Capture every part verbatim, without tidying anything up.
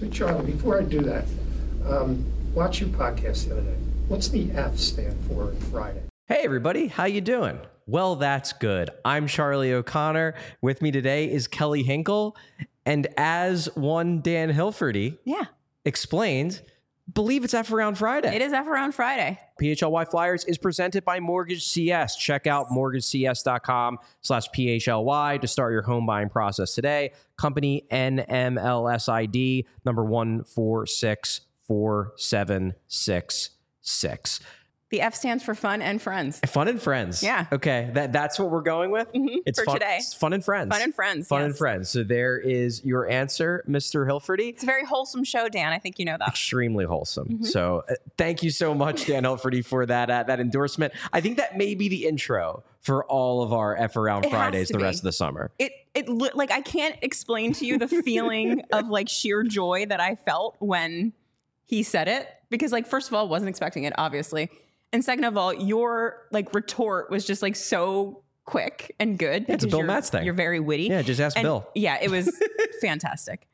Hey, Charlie, before I do that, um, watch your podcast the other day. What's the F stand for in Friday? Hey, everybody. How you doing? Well, that's good. I'm Charlie O'Connor. With me today is Kelly Hinkle. And as one Dan Hilferty yeah. explained, believe it's F Around Friday. It is F Around Friday. P H L Y Flyers is presented by Mortgage C S. Check out mortgagecs.com slash PHLY to start your home buying process today. Company N M L S I D number one four six four seven six six. The F stands for fun and friends. Fun and friends. Yeah. Okay. That that's what we're going with. Mm-hmm. It's for fun, today. It's fun and friends. Fun and friends. Fun yes. and friends. So there is your answer, Mister Hilferty. It's a very wholesome show, Dan. I think you know that. Extremely wholesome. Mm-hmm. So uh, thank you so much, Dan Hilferty, for that uh, that endorsement. I think that may be the intro for all of our F Around It has Fridays to the be. rest of the summer. It it li- like I can't explain to you the feeling of like sheer joy that I felt when he said it, because like first of all, wasn't expecting it, obviously. And second of all, your like retort was just like so quick and good. Yeah, it's a because Bill you're- Matz thing. You're very witty. Yeah, just ask And, Bill. Yeah, it was fantastic.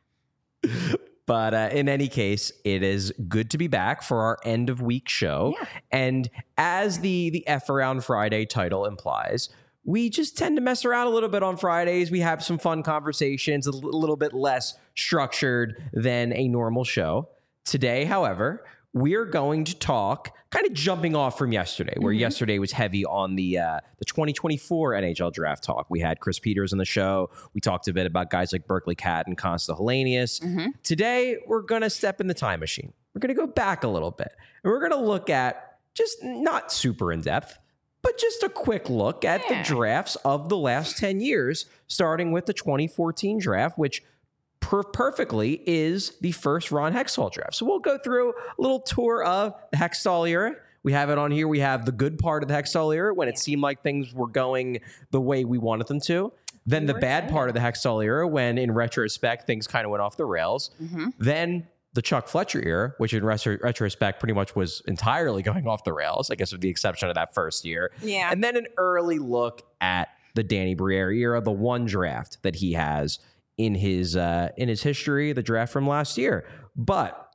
But uh, in any case, it is good to be back for our end of week show. Yeah. And as the the F Around Friday title implies, we just tend to mess around a little bit on Fridays. We have some fun conversations, a l- little bit less structured than a normal show. Today, however, we are going to talk, kind of jumping off from yesterday, where Mm-hmm. yesterday was heavy on the uh, the twenty twenty-four N H L draft talk. We had Chris Peters on the show. We talked a bit about guys like Berkeley Cat and Consta Hellenius. Mm-hmm. Today, we're going to step in the time machine. We're going to go back a little bit. And we're going to look at, just not super in depth, but just a quick look at Yeah. the drafts of the last ten years, starting with the twenty fourteen draft, which per- perfectly is the first Ron Hextall draft. So we'll go through a little tour of the Hextall era. We have it on here. We have the good part of the Hextall era when it seemed like things were going the way we wanted them to. Then the were bad excited. part of the Hextall era when, in retrospect, things kind of went off the rails. Mm-hmm. Then the Chuck Fletcher era, which in retro- retrospect pretty much was entirely going off the rails, I guess with the exception of that first year. Yeah. And then an early look at the Danny Briere era, the one draft that he has in his uh, in his history, the draft from last year. But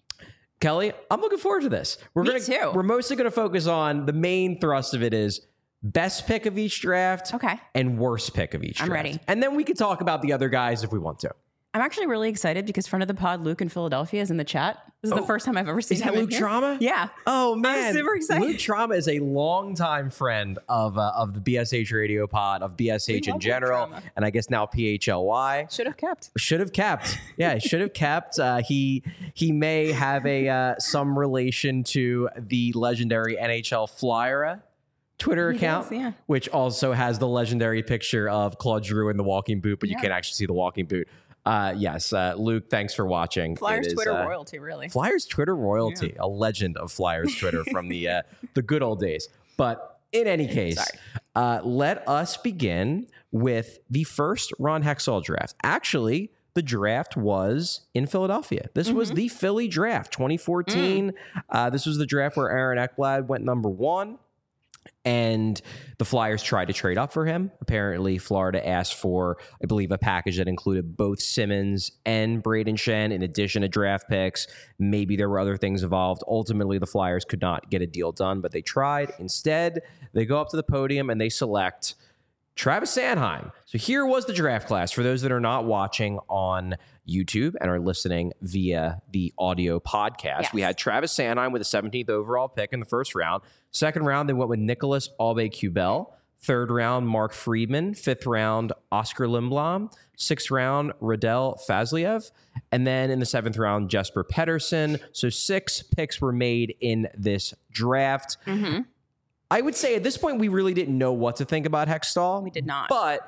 Kelly, I'm looking forward to this. We're Me gonna too. we're mostly gonna focus on the main thrust of it is best pick of each draft Okay. and worst pick of each I'm draft. ready. And then we can talk about the other guys if we want to. I'm actually really excited because friend of the pod, Luke in Philadelphia, is in the chat. This is Oh, the first time I've ever seen Is him that in Luke here. Trauma? Yeah. Oh man, super excited. Luke Trauma is a longtime friend of uh, of the B S H Radio Pod, of B S H We in love Luke general, Trauma. and I guess now P H L Y. Should have kept. Should have kept. Yeah, should have kept. Uh, he he may have a uh, some relation to the legendary N H L Flyera Twitter He account, does, yeah. which also has the legendary picture of Claude Giroux in the walking boot, but you Yeah. can't actually see the walking boot. Uh, yes, uh, Luke, thanks for watching. Flyers It is, Twitter uh, royalty, really. Flyers Twitter royalty, a legend of Flyers Twitter from the uh, the good old days. But in any case, Sorry. uh, let us begin with the first Ron Hextall draft. Actually, the draft was in Philadelphia. This was Mm-hmm. the Philly draft, twenty fourteen. Mm. Uh, this was the draft where Aaron Ekblad went number one. And the Flyers tried to trade up for him. Apparently, Florida asked for, I believe, a package that included both Simmons and Braden Shen, in addition to draft picks. Maybe there were other things involved. Ultimately, the Flyers could not get a deal done, but they tried. Instead, they go up to the podium and they select Travis Sanheim. So here was the draft class. For those that are not watching on YouTube and are listening via the audio podcast, Yes. we had Travis Sanheim with the seventeenth overall pick in the first round. Second round, they went with Nicholas Aube-Kubel. Third round, Mark Friedman. Fifth round, Oscar Lindblom. Sixth round, Radel Fazliev. And then in the seventh round, Jesper Pettersson. So six picks were made in this draft. Mm-hmm. I would say at this point, we really didn't know what to think about Hextall. We did not. But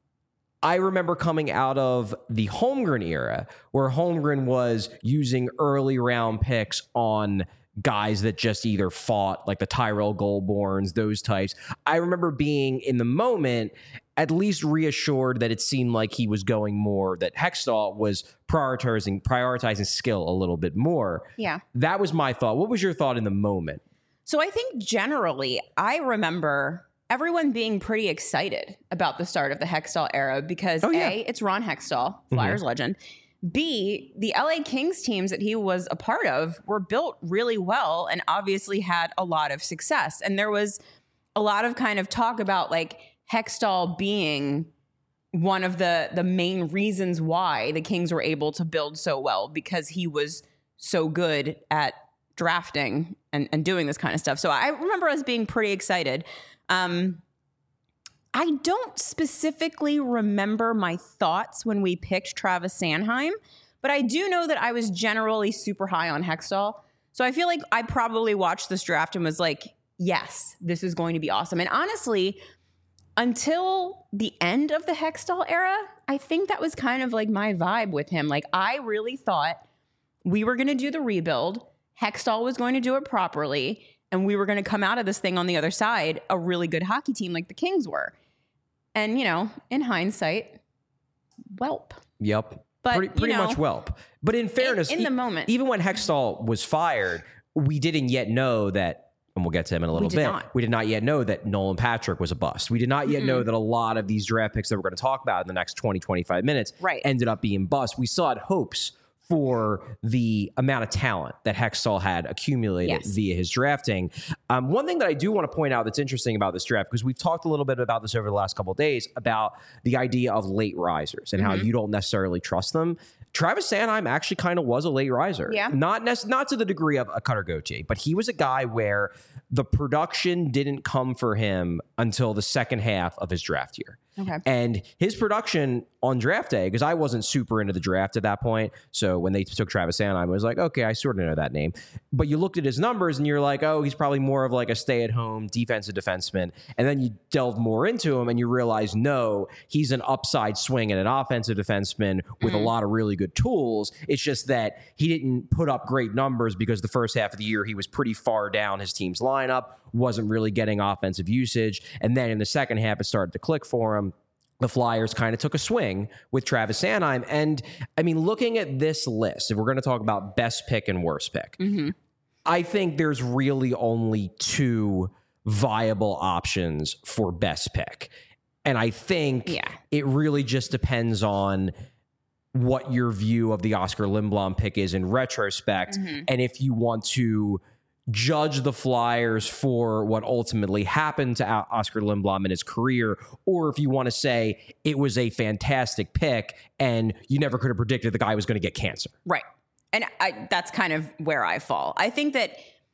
I remember coming out of the Holmgren era, where Holmgren was using early round picks on guys that just either fought, like the Tyrell Goldborns, those types. I remember being in the moment at least reassured that it seemed like he was going more, that Hextall was prioritizing prioritizing skill a little bit more. Yeah. That was my thought. What was your thought in the moment? So I think generally, I remember everyone being pretty excited about the start of the Hextall era because Oh, yeah. A, it's Ron Hextall, Flyers legend. B, the L A Kings teams that he was a part of were built really well and obviously had a lot of success. And there was a lot of kind of talk about like Hextall being one of the the main reasons why the Kings were able to build so well, because he was so good at drafting and, and doing this kind of stuff. So I remember us being pretty excited. Um, I don't specifically remember my thoughts when we picked Travis Sanheim, but I do know that I was generally super high on Hextall. So I feel like I probably watched this draft and was like, yes, this is going to be awesome. And honestly, until the end of the Hextall era, I think that was kind of like my vibe with him. Like, I really thought we were going to do the rebuild. Hextall was going to do it properly, and we were going to come out of this thing on the other side a really good hockey team like the Kings were. And, you know, in hindsight, whelp. Yep. But, pretty pretty you know, much whelp. But in fairness, in the moment. even when Hextall was fired, we didn't yet know that, and we'll get to him in a little We did bit. not. We did not yet know that Nolan Patrick was a bust. We did not yet Mm-mm. know that a lot of these draft picks that we're going to talk about in the next twenty, twenty-five minutes Right. ended up being bust. We still had hopes for the amount of talent that Hextall had accumulated Yes. via his drafting. Um, one thing that I do want to point out that's interesting about this draft, because we've talked a little bit about this over the last couple of days, about the idea of late risers and how Mhm. you don't necessarily trust them. Travis Sanheim actually kind of was a late riser. Yeah. Not nec- not to the degree of a Cutter Gauthier, but he was a guy where the production didn't come for him until the second half of his draft year. Okay. And his production on draft day, because I wasn't super into the draft at that point. So when they took Travis Sanheim, I was like, okay, I sort of know that name. But you looked at his numbers and you're like, oh, he's probably more of like a stay-at-home defensive defenseman. And then you delve more into him and you realize, no, he's an upside swing and an offensive defenseman with Mm. a lot of really good tools. It's just that he didn't put up great numbers because the first half of the year he was pretty far down his team's lineup, wasn't really getting offensive usage. And then in the second half, it started to click for him. The Flyers kind of took a swing with Travis Sanheim. And I mean, looking at this list, if we're going to talk about best pick and worst pick, Mm-hmm. I think there's really only two viable options for best pick. And I think Yeah. it really just depends on what your view of the Oscar Lindblom pick is in retrospect. Mhm. And if you want to judge the Flyers for what ultimately happened to O- Oscar Lindblom in his career, or if you want to say it was a fantastic pick and you never could have predicted the guy was going to get cancer. Right. And I, that's kind of where I fall. I think that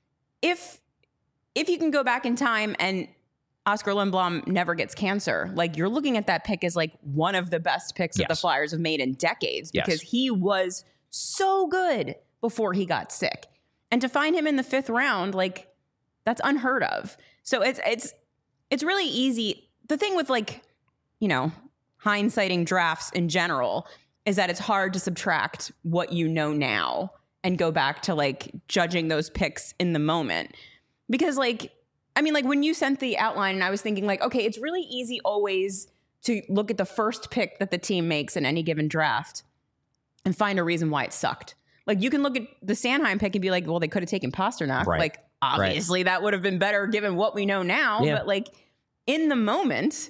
if if you can go back in time and Oscar Lindblom never gets cancer, like, you're looking at that pick as like one of the best picks that the Yes. Flyers have made in decades, Yes. because he was so good before he got sick. And to find him in the fifth round, like, that's unheard of. So it's it's it's really easy. The thing with, like, you know, hindsighting drafts in general is that it's hard to subtract what you know now and go back to like judging those picks in the moment. Because, like, I mean, like, when you sent the outline and I was thinking, like, okay, it's really easy always to look at the first pick that the team makes in any given draft and find a reason why it sucked. Like, you can look at the Sanheim pick and be like, well, they could have taken Pasternak. Right. Like, obviously that would have been better given what we know now. Yeah. But, like, in the moment,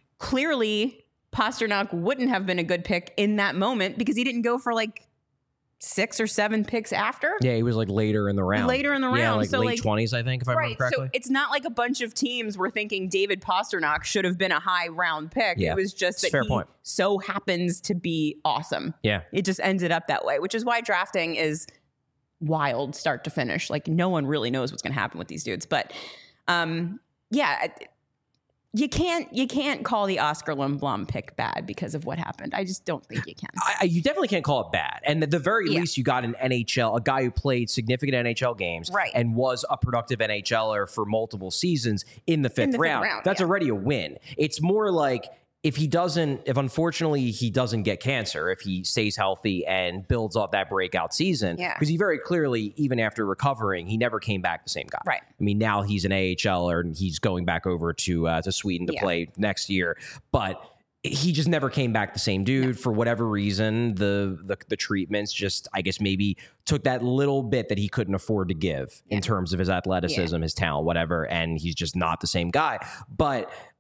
clearly Pasternak wouldn't have been a good pick in that moment because he didn't go for like six or seven picks after. Yeah, he was like later in the round. Later in the Yeah, round. like So, late like- twenties, I think, if I Right. remember correctly. So it's not like a bunch of teams were thinking David Pasternak should have been a high round pick. Yeah. It was just It's that a fair he point. so happens to be awesome. yeah. It just ended up that way, which is why drafting is wild start to finish. Like, no one really knows what's going to happen with these dudes. But um, yeah, you can't you can't call the Oscar Lindblom pick bad because of what happened. I just don't think you can. I, I- you definitely can't call it bad. And at the very Yeah. least, you got an N H L, a guy who played significant N H L games Right. and was a productive NHLer for multiple seasons in the fifth the fifth round. round, That's yeah. already a win. It's more like if he doesn't, if unfortunately he doesn't get cancer, if he stays healthy and builds off that breakout season, Yeah. because he very clearly, even after recovering, he never came back the same guy. Right. I mean, now he's an AHLer and he's going back over to uh, to Sweden to Yeah. play next year, but he just never came back the same dude. For whatever reason. The, the the treatments just, I guess, maybe took that little bit that he couldn't afford to give in terms of his athleticism, his talent, whatever, and he's just not the same guy. But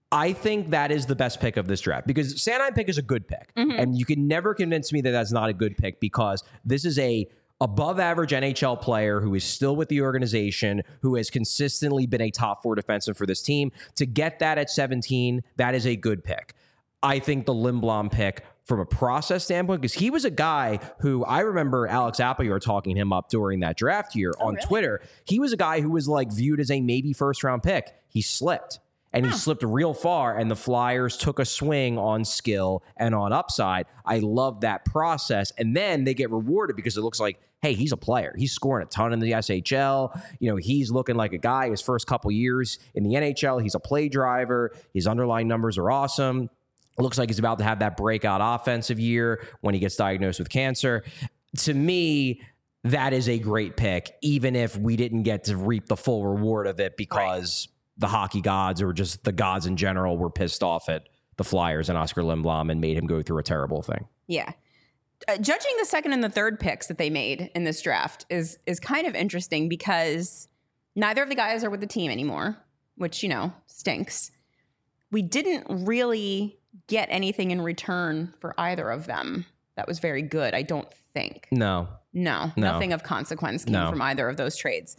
I think that is the best pick of this draft because Sanheim pick is a good pick. Mm-hmm. And you can never convince me that that's not a good pick because this is a above average N H L player who is still with the organization, who has consistently been a top four defenseman for this team. To get that at seventeen, that is a good pick. I think the Lindblom pick from a process standpoint, because he was a guy who I remember Alex Appleyard talking him up during that draft year oh, on really? Twitter. He was a guy who was like viewed as a maybe first round pick. He slipped. And he slipped real far, and the Flyers took a swing on skill and on upside. I love that process. And then they get rewarded because it looks like, hey, he's a player. He's scoring a ton in the S H L. You know, he's looking like a guy his first couple years in the N H L. He's a play driver. His underlying numbers are awesome. It looks like he's about to have that breakout offensive year when he gets diagnosed with cancer. To me, that is a great pick, even if we didn't get to reap the full reward of it because... Right. The hockey gods or just the gods in general were pissed off at the Flyers and Oscar Lindblom and made him go through a terrible thing. Yeah. Uh, judging the second and the third picks that they made in this draft is is kind of interesting because neither of the guys are with the team anymore, which, you know, stinks. We didn't really get anything in return for either of them that was very good, I don't think. No. No, no. nothing of consequence came no. from either of those trades.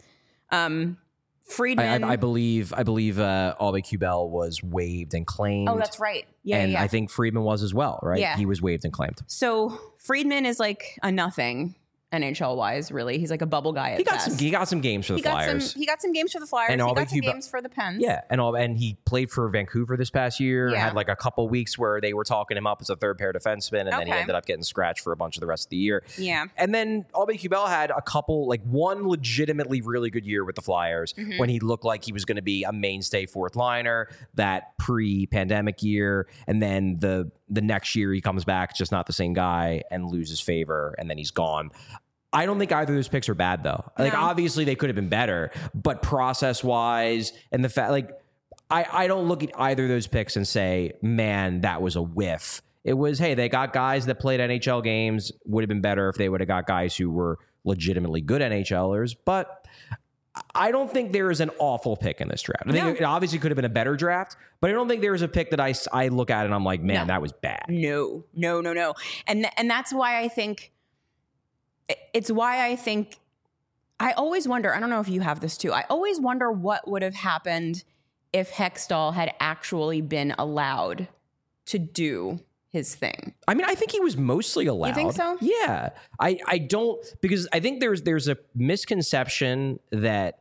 Um Friedman. I, I, I believe I believe uh, Aube-Kubel was waived and claimed. Oh, that's right. Yeah, and yeah. I think Friedman was as well, right? Yeah. He was waived and claimed. So Friedman is like a nothing N H L wise, really. He's like a bubble guy at he got best. some. He got some games for the he got Flyers. Some, he got some games for the Flyers. And he got some Aube-Kubel games for the Pens. Yeah, and all, and he played for Vancouver this past year. Yeah. Had like a couple weeks where they were talking him up as a third pair defenseman, and then he Okay. ended up getting scratched for a bunch of the rest of the year. Yeah. And then Aube-Kubel had a couple, like one legitimately really good year with the Flyers Mm-hmm. when he looked like he was going to be a mainstay fourth liner that pre-pandemic year, and then the the next year he comes back just not the same guy and loses favor, and then he's gone. I don't think either of those picks are bad, though. Like, No. obviously, they could have been better, but process-wise, and the fact, like, I, I don't look at either of those picks and say, man, that was a whiff. It was, hey, they got guys that played N H L games. Would have been better if they would have got guys who were legitimately good NHLers, but I don't think there is an awful pick in this draft. I think No. it obviously could have been a better draft, but I don't think there is a pick that I, I look at and I'm like, man, No. that was bad. No, no, no, no. And th- and that's why I think it's why I think I always wonder, I don't know if you have this too. I always wonder what would have happened if Hextall had actually been allowed to do his thing. I mean, I think he was mostly allowed. You think so? Yeah. I, I don't, because I think there's there's a misconception that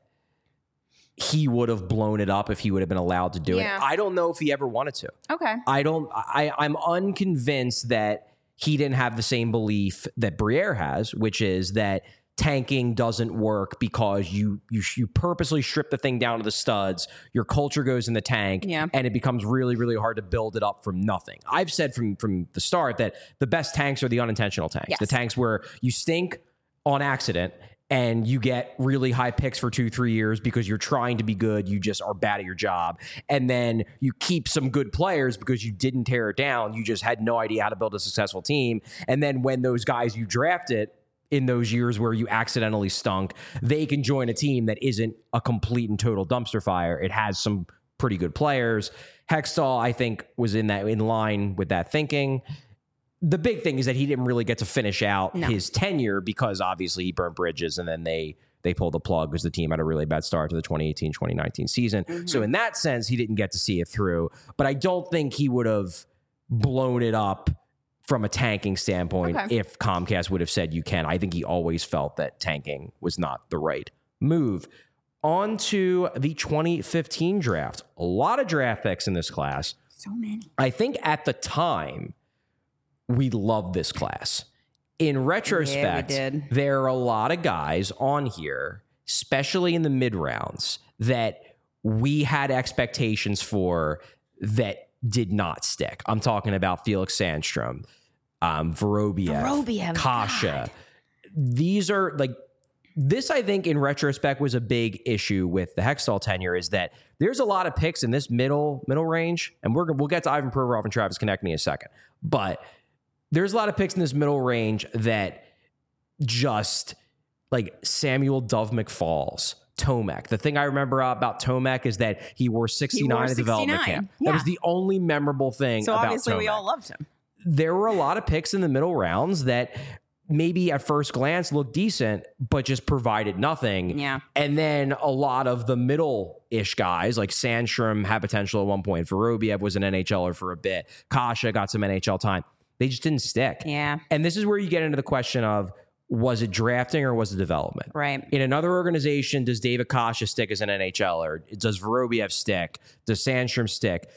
he would have blown it up if he would have been allowed to do Yeah. it. I don't know if he ever wanted to. Okay. I don't, I, I'm unconvinced that he didn't have the same belief that Briere has, which is that tanking doesn't work because you you you purposely strip the thing down to the studs. Your culture goes in the tank, Yeah. and it becomes really, really hard to build it up from nothing. I've said from from the start that the best tanks are the unintentional tanks, Yes. the tanks where you stink on accident and you get really high picks for two, three years because you're trying to be good. You just are bad at your job. And then you keep some good players because you didn't tear it down. You just had no idea how to build a successful team. And then when those guys you drafted in those years where you accidentally stunk, they can join a team that isn't a complete and total dumpster fire. It has some pretty good players. Hextall, I think, was in that in line with that thinking. The big thing is that he didn't really get to finish out No. his tenure because obviously he burnt bridges and then they they pulled the plug because the team had a really bad start to the twenty eighteen twenty nineteen season. Mm-hmm. So in that sense, he didn't get to see it through. But I don't think he would have blown it up from a tanking standpoint Okay. if Comcast would have said you can. I think he always felt that tanking was not the right move. On to the twenty fifteen draft. A lot of draft picks in this class. So many. I think at the time, we loved this class. In retrospect, Yeah, we did. there are a lot of guys on here, especially in the mid rounds, that we had expectations for that did not stick. I'm talking about Felix Sandstrom, um, Vorobiev, Vorobiev, Kasha. God. These are like, this, I think, in retrospect, was a big issue with the Hextall tenure, is that there's a lot of picks in this middle middle range, and we're we'll get to Ivan Provorov and Travis Konechny in a second. But there's a lot of picks in this middle range that just, like Samuel Dove McFalls, Tomek. The thing I remember about Tomek is that he wore sixty-nine at development camp. Yeah. That was the only memorable thing So about obviously Tomek. we all loved him. There were a lot of picks in the middle rounds that maybe at first glance looked decent, but just provided nothing. Yeah. And then a lot of the middle-ish guys, like Sandstrom had potential at one point. Vorobiev was an N H L er for a bit. Kasha got some N H L time. They just didn't stick. Yeah. And this is where you get into the question of, was it drafting or was it development? Right. In another organization, does David Kasha stick as an N H L er? Does Vorobiev stick? Does Sandstrom stick?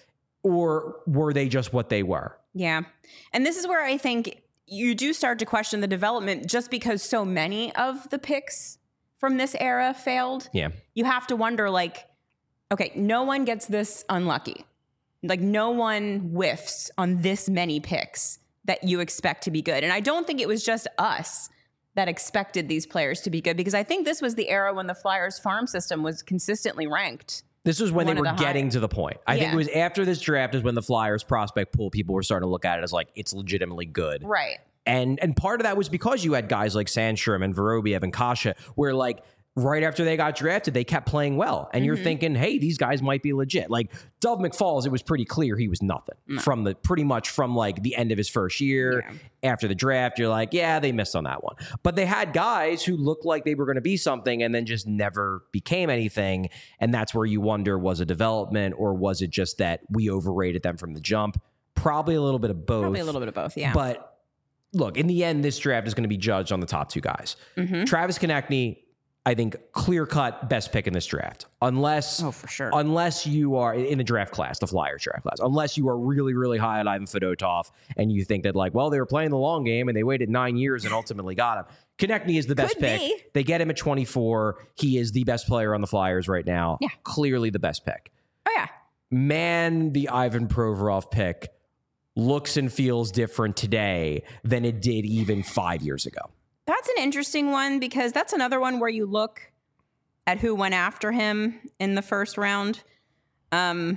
Or were they just what they were? Yeah. And this is where I think you do start to question the development just because so many of the picks from this era failed. Yeah. You have to wonder, like, okay, no one gets this unlucky. Like, no one whiffs on this many picks that you expect to be good. And I don't think it was just us that expected these players to be good, because I think this was the era when the Flyers farm system was consistently ranked. This was when One they of were the getting high- to the point. I think Yeah. it was after this draft is when the Flyers prospect pool, people were starting to look at it as like, it's legitimately good. Right. And and part of that was because you had guys like Sandstrom and Vorobiev and Kasha, where like right after they got drafted, they kept playing well. And you're thinking, hey, these guys might be legit. Like Dove McFalls, it was pretty clear he was nothing from the pretty much from like the end of his first year. Yeah. After the draft, you're like, yeah, they missed on that one. But they had guys who looked like they were going to be something and then just never became anything. And that's where you wonder, was it development or was it just that we overrated them from the jump? Probably a little bit of both. Probably a little bit of both, yeah. But look, in the end, this draft is going to be judged on the top two guys. Mm-hmm. Travis Konechny, I think, clear-cut best pick in this draft. Unless, Oh, for sure. unless you are in the draft class, the Flyers draft class, unless you are really, really high on Ivan Fedotov and you think that, like, well, they were playing the long game and they waited nine years and ultimately got him. Konechny is the best Could pick. be. They get him at twenty-four. He is the best player on the Flyers right now. Yeah. Clearly the best pick. Oh, yeah. Man, the Ivan Provorov pick looks and feels different today than it did even five years ago. That's an interesting one, because that's another one where you look at who went after him in the first round. Um,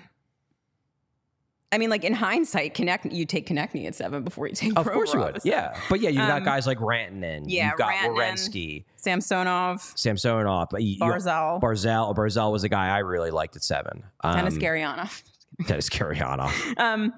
I mean, like in hindsight, Konechny, you take Konechny at seven before you take Of course you Provorov. would. So, Yeah. But yeah, you've got Um, guys like Rantanen. yeah, You've got Rantanen. Werenski, Samsonov, Samsonov. but you- you- Barzal, Barzal. Barzal was a guy I really liked at seven. Um, Dennis Gurianov. Dennis Gurianov. Um,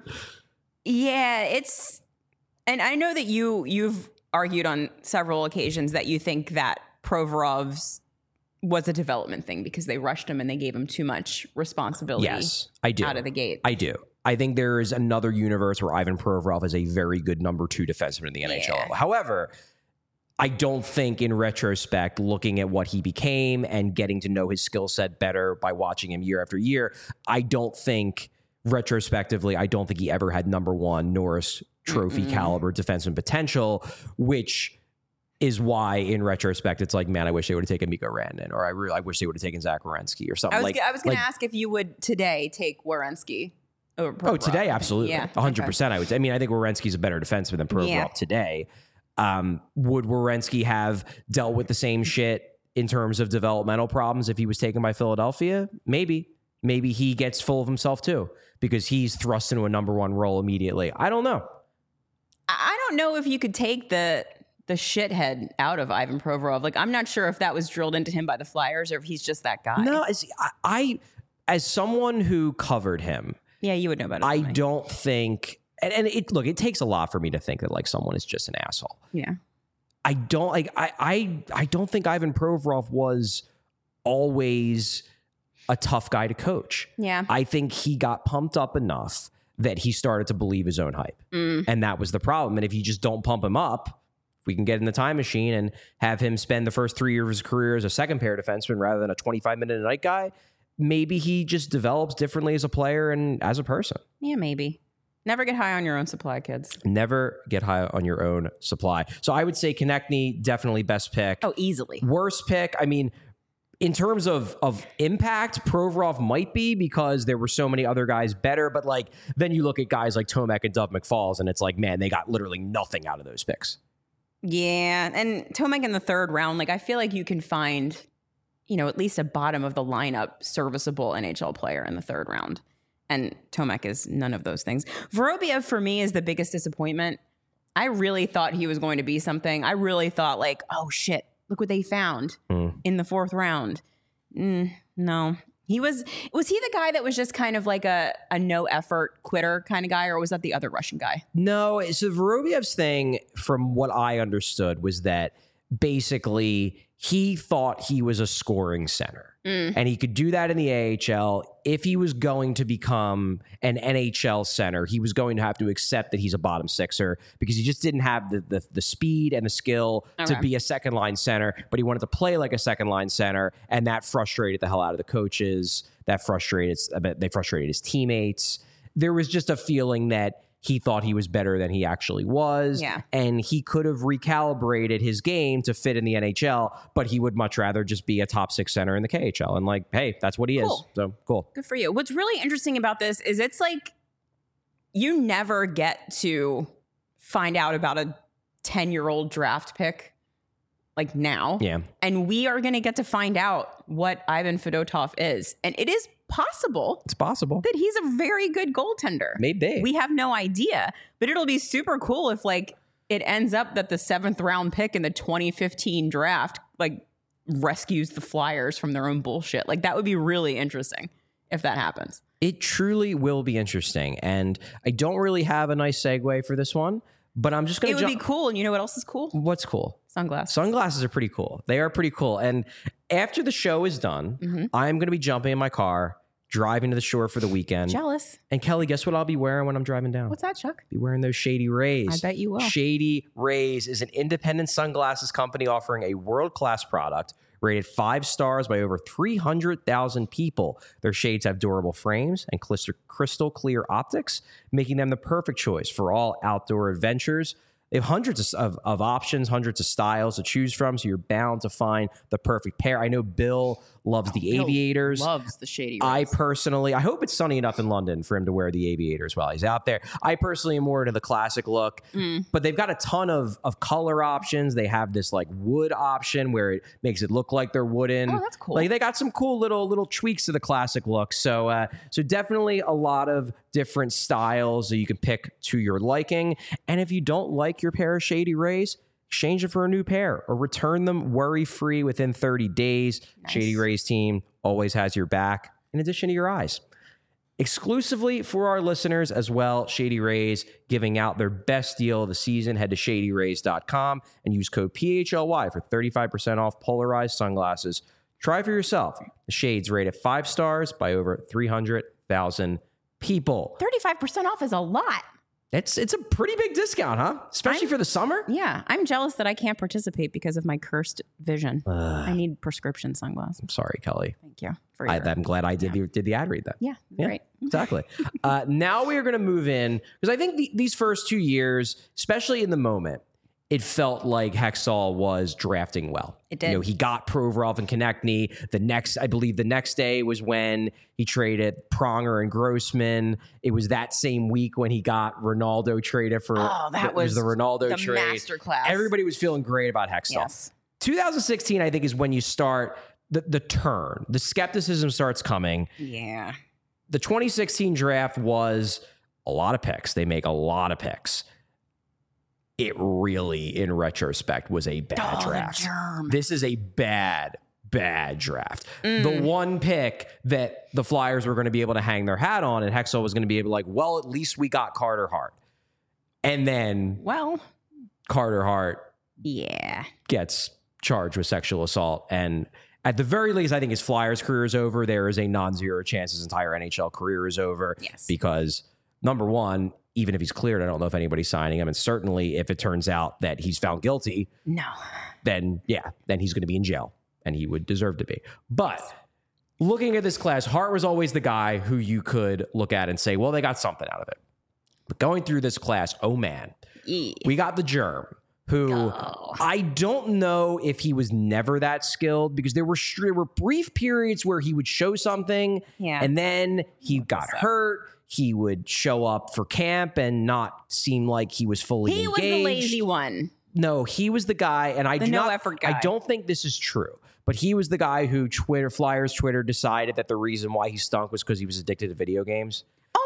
yeah, it's, and I know that you you've argued on several occasions that you think that Provorov's was a development thing because they rushed him and they gave him too much responsibility. Yes, I do. Out of the gate. I do. I think there is another universe where Ivan Provorov is a very good number two defenseman in the N H L. Yeah. However, I don't think in retrospect, looking at what he became and getting to know his skill set better by watching him year after year, I don't think retrospectively, I don't think he ever had number one Norris Trophy Mm-mm. caliber defenseman potential, which is why in retrospect, it's like, man, I wish they would have taken Mikko Rantanen, or I really, I wish they would have taken Zach Werenski or something. I was, like, g- I was going to like- ask if you would today take Werenski over Oh, Provorov. today, absolutely. Yeah. one hundred okay. percent. I would. I mean, I think Werenski's a better defenseman than Provorov Yeah. today. Um, would Werenski have dealt with the same shit in terms of developmental problems if he was taken by Philadelphia? Maybe. Maybe he gets full of himself too because he's thrust into a number one role immediately. I don't know. I I don't know if you could take the the shithead out of Ivan Provorov. Like, I'm not sure if that was drilled into him by the Flyers or if he's just that guy. No, as, I, I, as someone who covered him, Yeah, you would know better. I than me. don't think, and, and it look, it takes a lot for me to think that like someone is just an asshole. Yeah. I don't like I I I don't think Ivan Provorov was always a tough guy to coach. Yeah. I think he got pumped up enough that he started to believe his own hype. Mm. And that was the problem. And if you just don't pump him up, we can get in the time machine and have him spend the first three years of his career as a second pair defenseman rather than a twenty-five minute a night guy. Maybe he just develops differently as a player and as a person. Yeah, maybe. Never get high on your own supply, kids. Never get high on your own supply. So I would say Konechny, definitely best pick. Oh, easily. Worst pick, I mean, in terms of of impact, Provorov might be because there were so many other guys better. But like then you look at guys like Tomek and Dove McFalls, and it's like, man, they got literally nothing out of those picks. Yeah, and Tomek in the third round, like I feel like you can find, you know, at least a bottom of the lineup serviceable N H L player in the third round. And Tomek is none of those things. Vorobiev for me is the biggest disappointment. I really thought he was going to be something. I really thought like, oh shit, look what they found Mm. in the fourth round. Mm, no. He was, was he the guy that was just kind of like a, a no effort quitter kind of guy, or was that the other Russian guy? No, so Vorobyev's thing, from what I understood, was that basically he thought he was a scoring center. Mm. And he could do that in the A H L. If he was going to become an N H L center, he was going to have to accept that he's a bottom sixer because he just didn't have the the, the speed and the skill okay. to be a second line center, but he wanted to play like a second line center, and that frustrated the hell out of the coaches. That frustrated, they frustrated his teammates. There was just a feeling that he thought he was better than he actually was. Yeah. And he could have recalibrated his game to fit in the N H L, but he would much rather just be a top six center in the K H L. And like, hey, that's what he cool. is. So cool. Good for you. What's really interesting about this is it's like you never get to find out about a ten-year-old draft pick like now. Yeah. And we are going to get to find out what Ivan Fedotov is. And it is possible. It's possible that he's a very good goaltender. Maybe. We have no idea, but it'll be super cool if like it ends up that the seventh round pick in the twenty fifteen draft like rescues the Flyers from their own bullshit. Like that would be really interesting if that happens. It truly will be interesting. And I don't really have a nice segue for this one, but I'm just going to It would jump- be cool. And you know what else is cool? What's cool? Sunglasses. Sunglasses are pretty cool. They are pretty cool. And after the show is done, mm-hmm. I'm going to be jumping in my car, driving to the shore for the weekend. Jealous. And Kelly, guess what I'll be wearing when I'm driving down? What's that, Chuck? Be wearing those Shady Rays. I bet you will. Shady Rays is an independent sunglasses company offering a world-class product rated five stars by over three hundred thousand people. Their shades have durable frames and crystal clear optics, making them the perfect choice for all outdoor adventures. They have hundreds of, of, of options, hundreds of styles to choose from, so you're bound to find the perfect pair. I know Bill loves the Bill aviators. Loves the Shady Rays. I personally, I hope it's sunny enough in London for him to wear the aviators while he's out there. I personally am more into the classic look, mm. but they've got a ton of, of color options. They have this like wood option where it makes it look like they're wooden. Oh, that's cool. Like they got some cool little little tweaks to the classic look. So, uh, so definitely a lot of different styles that you can pick to your liking. And if you don't like your pair of Shady Rays, exchange it for a new pair or return them worry-free within thirty days. Nice. Shady Rays team always has your back, in addition to your eyes. Exclusively for our listeners as well, Shady Rays giving out their best deal of the season. Head to shady rays dot com and use code P H L Y for thirty-five percent off polarized sunglasses. Try for yourself. The shades rated five stars by over three hundred thousand people. thirty-five percent off is a lot. It's it's a pretty big discount, huh? Especially I'm, for the summer. Yeah. I'm jealous that I can't participate because of my cursed vision. Uh, I need prescription sunglasses. I'm sorry, Kelly. Thank you. For I, your, I'm glad I did, yeah. the, did the ad read that. Yeah, Yeah, great. Exactly. uh, now we are going to move in because I think the, these first two years, especially in the moment, it felt like Hextall was drafting well. It did. You know, he got Provorov and Konechny. The next, I believe the next day was when he traded Pronger and Grossman. It was that same week when he got Ronaldo traded for oh, that the, was the Ronaldo the trade. masterclass. Everybody was feeling great about Hextall. Yes. twenty sixteen, I think, is when you start the, the turn. The skepticism starts coming. Yeah. The twenty sixteen draft was a lot of picks. They make a lot of picks. It really, in retrospect, was a bad oh, draft. The germ. This is a bad, bad draft. Mm. The one pick that the Flyers were going to be able to hang their hat on, and Hextall was going to be able to like, well, at least we got Carter Hart. And then Well, Carter Hart yeah. gets charged with sexual assault. And at the very least, I think his Flyers career is over. There is a non-zero chance his entire N H L career is over. Yes. Because number one, even if he's cleared, I don't know if anybody's signing him. And certainly if it turns out that he's found guilty, No. then yeah, then he's going to be in jail and he would deserve to be. But looking at this class, Hart was always the guy who you could look at and say, well, they got something out of it. But going through this class, oh man, E. we got the germ, who Oh. I don't know if he was never that skilled because there were there were brief periods where he would show something Yeah. and then he got so. hurt. He would show up for camp and not seem like he was fully He engaged. was the lazy one. No, he was the guy, and I The do no not, effort guy. I don't think this is true, but he was the guy who Twitter Flyers Twitter decided that the reason why he stunk was because he was addicted to video games. Oh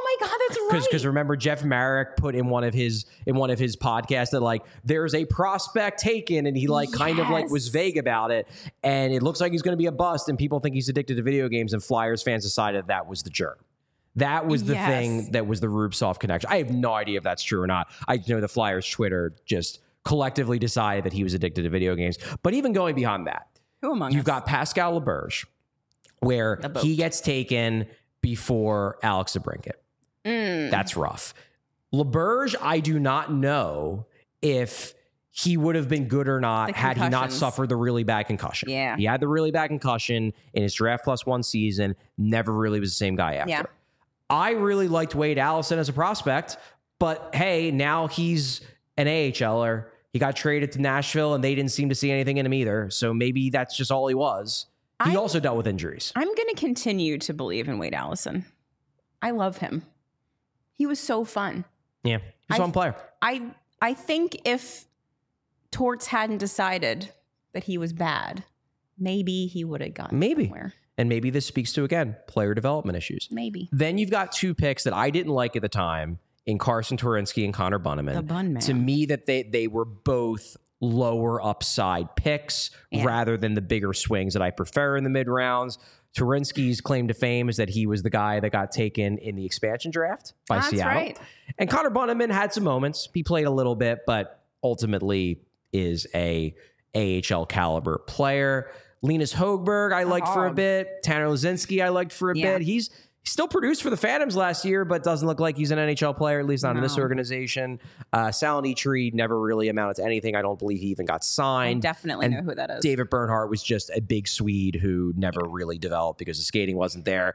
my God, that's right. Because remember, Jeff Marek put in one of his in one of his podcasts that like there's a prospect taken, and he like kind of like was Yes. vague about it, and it looks like he's going to be a bust, and people think he's addicted to video games, and Flyers fans decided that was the germ. That was the Yes. thing that was the Rubtsov connection. I have no idea if that's true or not. I know the Flyers Twitter just collectively decided that he was addicted to video games. But even going beyond that, Who among you've us? got Pascal Laberge, where The boat. he gets taken before Alex DeBrincat. Mm. That's rough. LaBerge, I do not know if he would have been good or not The had he not concussions. suffered the really bad concussion. Yeah. He had the really bad concussion in his draft plus one season, never really was the same guy after. Yeah. I really liked Wade Allison as a prospect, but hey, now he's an AHLer. He got traded to Nashville and they didn't seem to see anything in him either. So maybe that's just all he was. He I'm- also dealt with injuries. I'm going to continue to believe in Wade Allison. I love him. He was so fun. Yeah. He's a I- fun player. I I think if Torts hadn't decided that he was bad, maybe he would have gotten Maybe. somewhere. And maybe this speaks to, again, player development issues. Maybe. Then you've got two picks that I didn't like at the time in Carson Turinsky and Connor Bunneman. The Bun Man. To me, that they they were both lower upside picks Yeah. rather than the bigger swings that I prefer in the mid rounds. Turinsky's claim to fame is that he was the guy that got taken in the expansion draft by That's Seattle. right. And Connor Bunneman had some moments. He played a little bit, but ultimately is a A H L caliber player. Linus Hogberg, I liked for a hog. bit. Tanner Lazinski, I liked for a Yeah. bit. He's he still produced for the Phantoms last year, but doesn't look like he's an N H L player, at least not in this No. organization. Uh, Salonitri never really amounted to anything. I don't believe he even got I signed. definitely and know who that is. David Bernhardt was just a big Swede who never really developed because the skating wasn't there.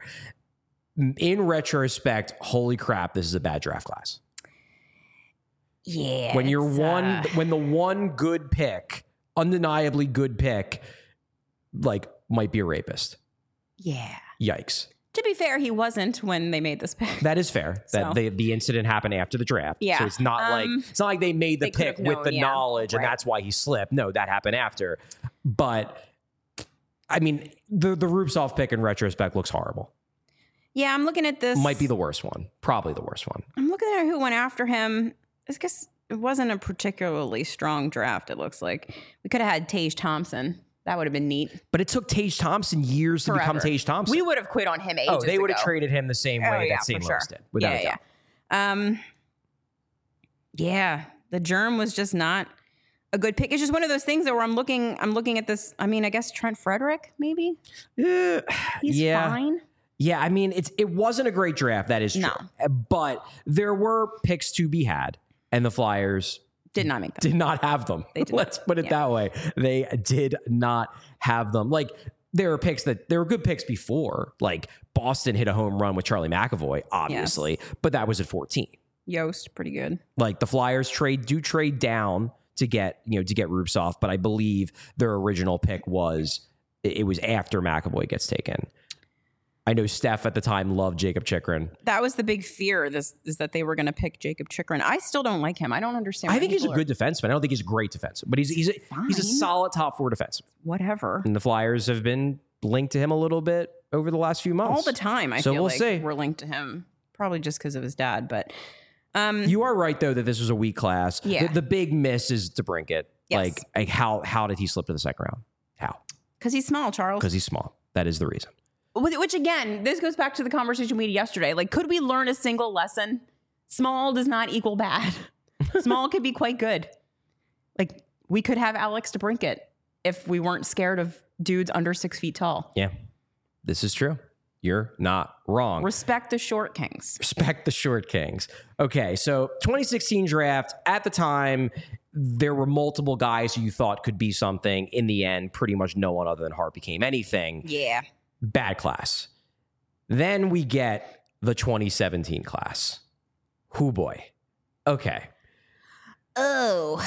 In retrospect, holy crap, this is a bad draft class. Yeah. When you're it's, one, uh, when the one good pick, undeniably good pick, like might be a rapist. yeah. Yikes. To be fair, he wasn't when they made this pick. That is fair. That So. the, the incident happened after the draft. Yeah. So it's not Um, like it's not like they made the they could pick have with known, the yeah. knowledge and Right. that's why he slipped. No, that happened after. But I mean, the the Rubtsov pick in retrospect looks horrible. Yeah, I'm looking at this. Might be the worst one. Probably the worst one. I'm looking at who went after him. I guess it wasn't a particularly strong draft, it looks like. We could have had Tage Thompson. That would have been neat. But it took Tage Thompson years to become Forever. Tage Thompson. We would have quit on him ages oh, they would have ago. traded him the same Oh, way yeah, that Saint for Louis sure. did, without yeah, a doubt. yeah. Um, yeah, the germ was just not a good pick. It's just one of those things that where I'm looking, I'm looking at this. I mean, I guess Trent Frederick, maybe Uh, he's yeah. fine. Yeah, I mean, it's it wasn't a great draft. That is true. No. But there were picks to be had, and the Flyers Did not make them. did not have them. They did not. Let's put it Yeah. that way. They did not have them. Like there were picks that there were good picks before. Like Boston hit a home run with Charlie McAvoy, obviously, but that was at fourteen. Yost, pretty good. Like the Flyers trade do trade down to get you know to get Rubtsov, but I believe their original pick was it it was after McAvoy gets taken. I know Steph at the time loved Jacob Chikrin. That was the big fear. This is that they were going to pick Jacob Chikrin. I still don't like him. I don't understand. I why think he's a people good defenseman. I don't think he's a great defenseman, but he's he's a, he's a Fine. solid top four defenseman. are- whatever. And the Flyers have been linked to him a little bit over the last few months. All the time. I So feel we'll like see. we're linked to him, probably just because of his dad. But um, You are right though that this was a weak class. Yeah. The, the big miss is DeBrincat. Yes. Like, like how how did he slip to the second round? How? because he's small, Charles. Because he's small. That is the reason. Which which, again, this goes back to the conversation we had yesterday. Like, could we learn a single lesson? Small does not equal bad. Small could be quite good. Like, we could have Alex DeBrincat if we weren't scared of dudes under six feet tall. Yeah. This is true. You're not wrong. Respect the short kings. Respect the short kings. Okay, so twenty sixteen draft, at the time, there were multiple guys who you thought could be something. In the end, pretty much no one other than Hart became anything. Yeah. Bad class. Then we get the twenty seventeen class. Whoo boy. Okay. Oh,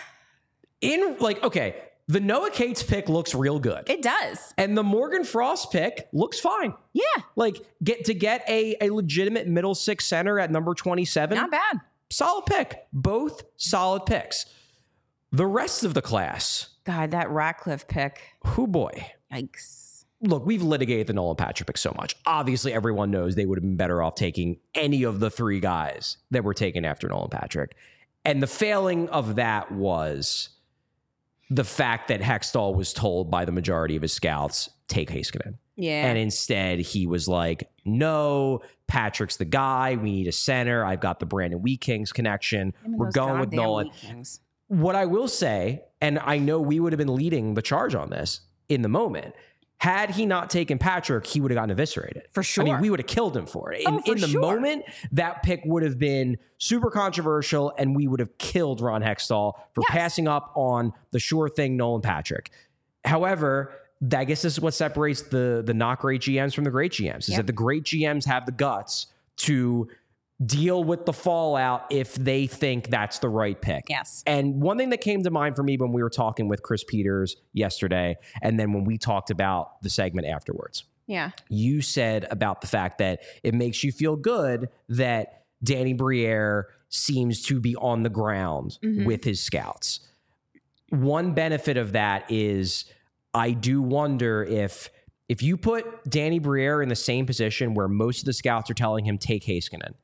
In like, okay, the Noah Cates pick looks real good. it does. And the Morgan Frost pick looks fine. Yeah. Like get to get a, a legitimate middle six center at number twenty-seven. Not bad. Solid pick. Both solid picks. The rest of the class, God, that Ratcliffe pick. who boy. Yikes. look, we've litigated the Nolan Patrick pick so much. Obviously, everyone knows they would have been better off taking any of the three guys that were taken after Nolan Patrick. And the failing of that was the fact that Hextall was told by the majority of his scouts, take Heiskanen. Yeah. And instead, he was like, no, Patrick's the guy. We need a center. I've got the Brandon Wheat Kings connection. We're going with Nolan. What I will say, and I know we would have been leading the charge on this in the moment, had he not taken Patrick, he would have gotten eviscerated. For sure. I mean, we would have killed him for it. In, Oh, for in the sure. moment, that pick would have been super controversial, and we would have killed Ron Hextall for Yes. passing up on the sure thing, Nolan Patrick. However, I guess this is what separates the, the not great G Ms from the great G Ms, is Yep. that the great G Ms have the guts to deal with the fallout if they think that's the right pick. Yes. And one thing that came to mind for me when we were talking with Chris Peters yesterday, and then when we talked about the segment afterwards, Yeah. you said about the fact that it makes you feel good that Danny Briere seems to be on the ground Mhm. with his scouts. One benefit of that is I do wonder if if you put Danny Briere in the same position where most of the scouts are telling him take Heiskanen,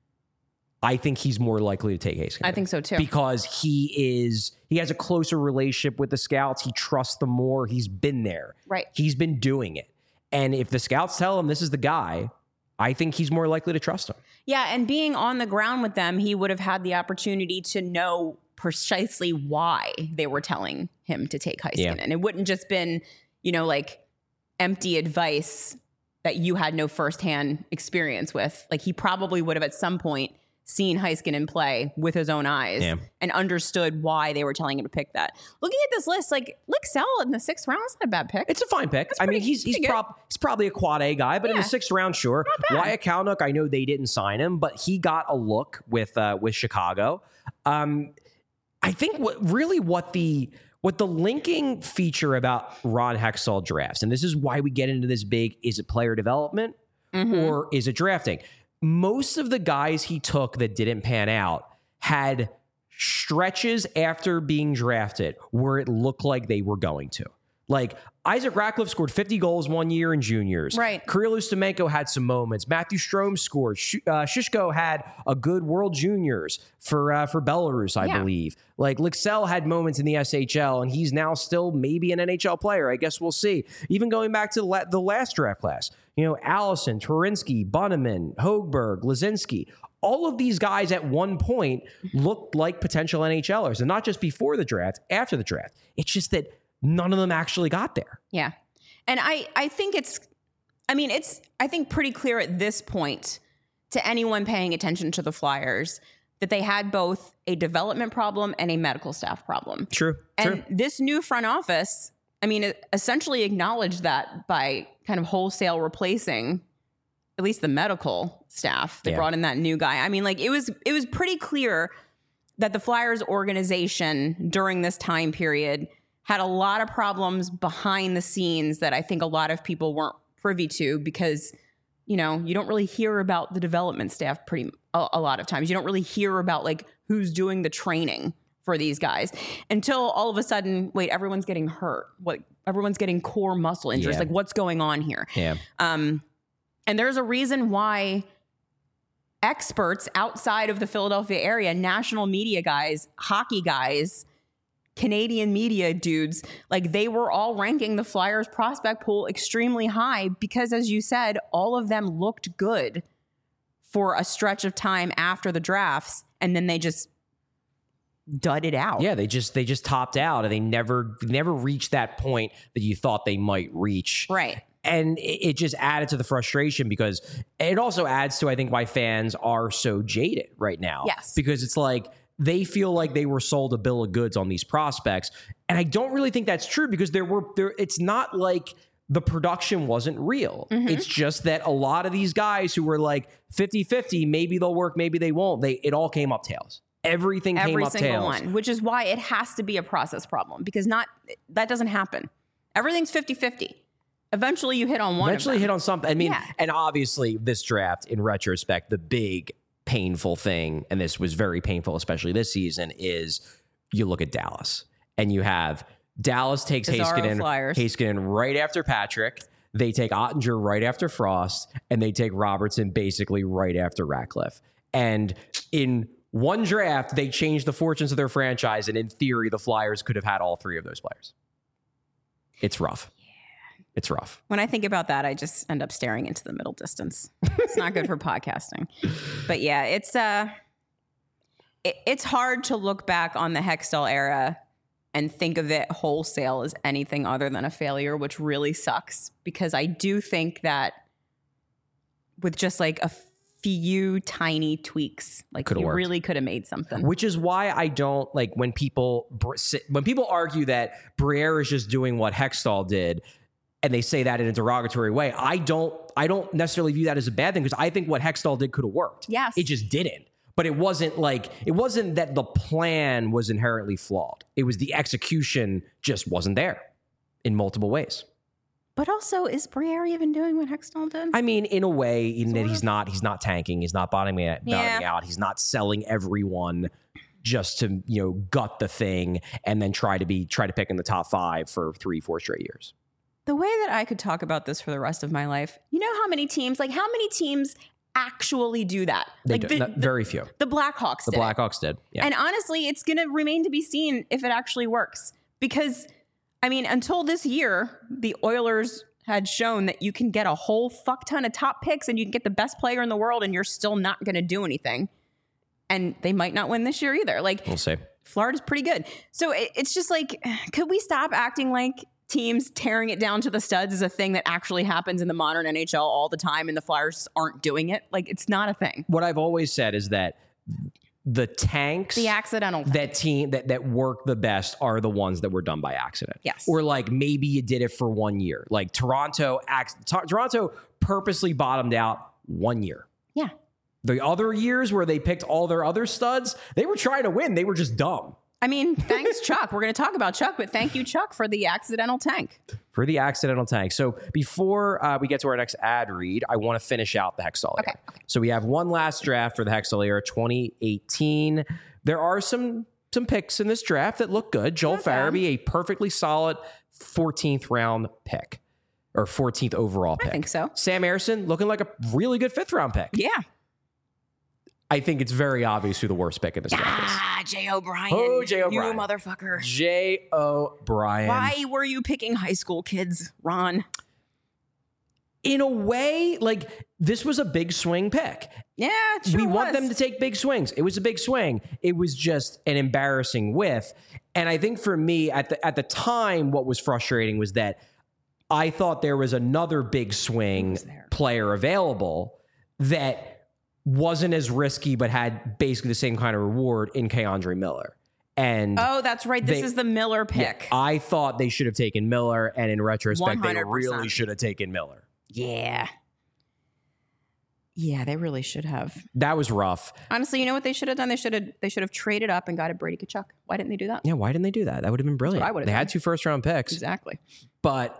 I think he's more likely to take Heiskanen. I think so too. Because he is he has a closer relationship with the scouts. He trusts them more. He's been there. Right. He's been doing it. And if the scouts tell him this is the guy, I think he's more likely to trust him. Yeah, and being on the ground with them, he would have had the opportunity to know precisely why they were telling him to take Heiskanen. Yeah. And it wouldn't just been, you know, like empty advice that you had no firsthand experience with. Like he probably would have at some point seen Heiskanen play with his own eyes Yeah. and understood why they were telling him to pick that. Looking at this list, like Licksell in the sixth round is not a bad pick. It's a fine pick. I mean, pretty- he's he's, pretty good. prob- he's probably a quad A guy, but in Yeah. the sixth round, sure. bad. Wyatt Kalynuk, I know they didn't sign him, but he got a look with uh, with Chicago. Um, I think what really what the what the linking feature about Ron Hextall drafts, and this is why we get into this big: is it player development Mhm. or is it drafting? Most of the guys he took that didn't pan out had stretches after being drafted where it looked like they were going to. Like Isaac Ratcliffe scored fifty goals one year in juniors. Right. Kirill Ustimenko had some moments. Matthew Strome scored. Sh- uh, Shishko had a good World Juniors for uh, for Belarus, I Yeah. believe. Like Licksell had moments in the S H L, and he's now still maybe an N H L player. I guess we'll see. Even going back to the, la- the last draft class, you know, Allison, Turinsky, Bunneman, Hoegberg, Lazinski. All of these guys at one point looked like potential N H Lers, and not just before the draft, after the draft. It's just that none of them actually got there. Yeah. And I, I think it's, I mean, it's, I think pretty clear at this point to anyone paying attention to the Flyers that they had both a development problem and a medical staff problem. True. And this new front office, I mean, it essentially acknowledged that by kind of wholesale replacing at least the medical staff. They Yeah. brought in that new guy. I mean, like it was, it was pretty clear that the Flyers organization during this time period had a lot of problems behind the scenes that I think a lot of people weren't privy to because, you know, you don't really hear about the development staff pretty a, a lot of times. You don't really hear about like who's doing the training for these guys until all of a sudden, wait, everyone's getting hurt. What everyone's getting core muscle injuries. Yeah. Like what's going on here? Yeah. Um, and there's a reason why experts outside of the Philadelphia area, national media guys, hockey guys, Canadian media dudes, like they were all ranking the Flyers prospect pool extremely high because, as you said, all of them looked good for a stretch of time after the drafts, and then they just dudded out. Yeah, they just they just topped out, and they never never reached that point that you thought they might reach. Right. And it, it just added to the frustration because it also adds to, I think, why fans are so jaded right now. Yes. Because it's like they feel like they were sold a bill of goods on these prospects. And I don't really think that's true because there were there it's not like the production wasn't real. Mm-hmm. It's just that a lot of these guys who were like fifty-fifty, maybe they'll work, maybe they won't. They it all came up tails. Everything came Every up single tails. one, which is why it has to be a process problem because not that doesn't happen. Everything's fifty-fifty. Eventually you hit on one Eventually of them. hit on something. I mean, Yeah. and obviously this draft, in retrospect, the big painful thing, and this was very painful, especially this season, is you look at Dallas and you have Dallas takes Bizarro Heiskanen, Flyers. Heiskanen right after Patrick. They take Ottinger right after Frost, and they take Robertson basically right after Ratcliffe. And in one draft, they changed the fortunes of their franchise, and in theory, the Flyers could have had all three of those players. It's rough. Yeah. It's rough. When I think about that, I just end up staring into the middle distance. It's not good for podcasting. But yeah, it's uh, it, it's hard to look back on the Hextall era and think of it wholesale as anything other than a failure, which really sucks, because I do think that with just like a few tiny tweaks, like Could've you worked. really could have made something. Which is why I don't like when people when people argue that Briere is just doing what Hextall did, and they say that in a derogatory way. I don't I don't necessarily view that as a bad thing, because I think what Hextall did could have worked. Yes. It just didn't. But it wasn't like it wasn't that the plan was inherently flawed. It was the execution just wasn't there in multiple ways. But also, is Briere even doing what Hextall did? I mean, in a way, in Sort that of. he's not he's not tanking, he's not bottoming, out, bottoming Yeah. out, he's not selling everyone just to, you know, gut the thing and then try to be try to pick in the top five for three, four straight years. The way that I could talk about this for the rest of my life, you know how many teams, like how many teams actually do that? They like do, the, not, very few. the Blackhawks The did it. Blackhawks did. Yeah. And honestly, it's going to remain to be seen if it actually works. Because, I mean, until this year, the Oilers had shown that you can get a whole fuck ton of top picks and you can get the best player in the world and you're still not going to do anything. And they might not win this year either. Like, We'll see. Florida's pretty good. So it, it's just like, could we stop acting like teams tearing it down to the studs is a thing that actually happens in the modern N H L all the time and the Flyers aren't doing it? Like, it's not a thing. What I've always said is that the tanks The accidental. that team that that work the best are the ones that were done by accident. Yes. Or like maybe you did it for one year. Like Toronto, ac- T- Toronto purposely bottomed out one year. Yeah. The other years where they picked all their other studs, they were trying to win. They were just dumb. I mean, thanks, Chuck. We're going to talk about Chuck, but thank you, Chuck, for the accidental tank. For the accidental tank. So before uh, we get to our next ad read, I want to finish out the Hextall era. Okay, okay. So we have one last draft for the Hextall era, twenty eighteen. There are some some picks in this draft that look good. Joel Not bad. Farabee, a perfectly solid fourteenth round pick, or fourteenth overall pick. I think so. Sam Ersson looking like a really good fifth round pick. Yeah. I think it's very obvious who the worst pick in this draft is. Ah, Jay O'Brien. Oh, Jay O'Brien. You motherfucker. Jay O'Brien. Why were you picking high school kids, Ron? In a way, like this was a big swing pick. Yeah, it sure we want was. them to take big swings. It was a big swing. It was just an embarrassing whiff. And I think for me at the at the time, what was frustrating was that I thought there was another big swing was there? player available that wasn't as risky, but had basically the same kind of reward in Keandre Miller. And Oh, that's right. This They- is the Miller pick. I thought they should have taken Miller, and in retrospect, they one hundred percent. really should have taken Miller. Yeah. Yeah, they really should have. That was rough. Honestly, you know what they should have done? They should have they should have traded up and got a Brady Tkachuk. Why didn't they do that? Yeah, why didn't they do that? That would have been brilliant. I would've They done. had two first round picks. Exactly. But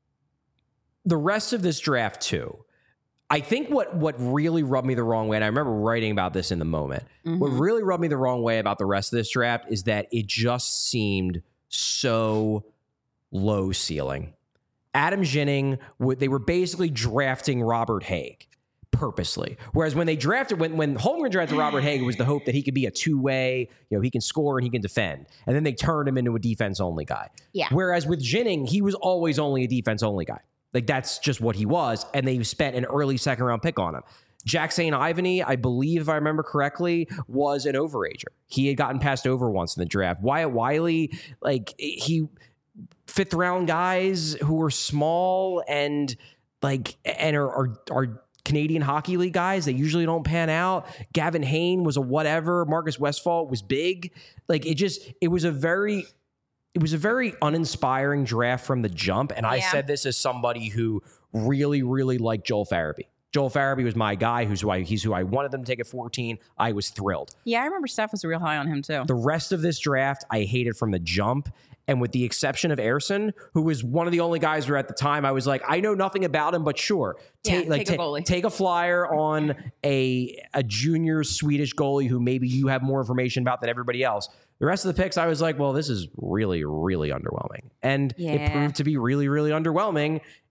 the rest of this draft too, I think what what really rubbed me the wrong way, and I remember writing about this in the moment, what really rubbed me the wrong way about the rest of this draft is that it just seemed so low ceiling. Adam Ginning, would- they were basically drafting Robert Haig purposely. Whereas when they drafted, when, when Holmgren drafted Robert Haig, it was the hope that he could be a two-way, you know, he can score and he can defend. And then they turned him into a defense-only guy. Yeah. Whereas with Ginning, he was always only a defense-only guy. Like, that's just what he was. And they spent an early second-round pick on him. Jack Saint Ivany, I believe, if I remember correctly, was an overager. He had gotten passed over once in the draft. Wyatt Wiley, like, he... fifth round guys who are small and like and are, are are Canadian Hockey League guys that usually don't pan out. Gavin Hayne was a whatever. Marcus Westphal was big. Like it just it was a very it was a very uninspiring draft from the jump. And I Yeah. said this as somebody who really really liked Joel Farabee. Joel Farabee was my guy. Who's who I he's who I wanted them to take at fourteen. I was thrilled. Yeah, I remember Steph was real high on him too. The rest of this draft, I hated from the jump. And with the exception of Ersson, who was one of the only guys where at the time I was like, I know nothing about him, but sure. Yeah, like, take a ta- goalie. take a flyer on a, a junior Swedish goalie who maybe you have more information about than everybody else. The rest of the picks, I was like, well, this is really, really underwhelming. And it Yeah. proved to be really, really underwhelming.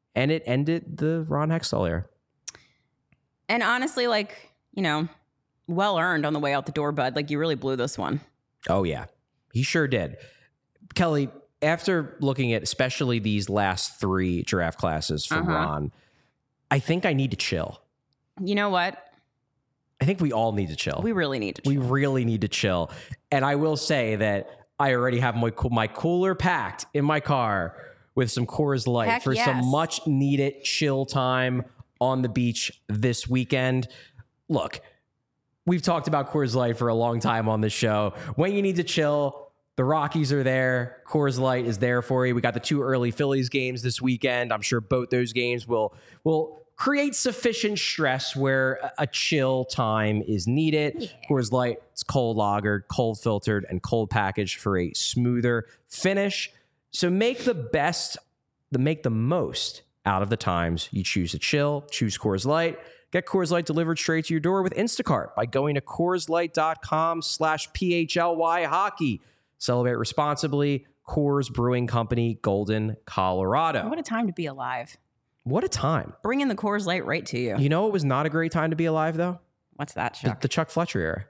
and it ended the Ron Hextall era. And honestly, like, you know, well earned on the way out the door, bud. Like, you really blew this one. Oh, yeah. He sure did. Kelly, after looking at especially these last three draft classes for Uh-huh. Ron, I think I need to chill. You know what? I think we all need to chill. We really need to We chill. really need to chill. And I will say that I already have my my cooler packed in my car with some Coors Light Heck for yes. some much needed chill time on the beach this weekend. Look, we've talked about Coors Light for a long time on this show. When you need to chill, the Rockies are there. Coors Light is there for you. We got the two early Phillies games this weekend. I'm sure both those games will will create sufficient stress where a, a chill time is needed. Yeah. Coors Light, it's cold lagered, cold filtered, and cold packaged for a smoother finish. So make the best, the make the most out of the times you choose to chill. Choose Coors Light. Get Coors Light delivered straight to your door with Instacart by going to CoorsLight.com slash PHLY hockey. Celebrate responsibly. Coors Brewing Company, Golden, Colorado. What a time to be alive. What a time. Bringing the Coors Light right to you. You know it was not a great time to be alive, though? What's that, The, Chuck? the Chuck Fletcher era.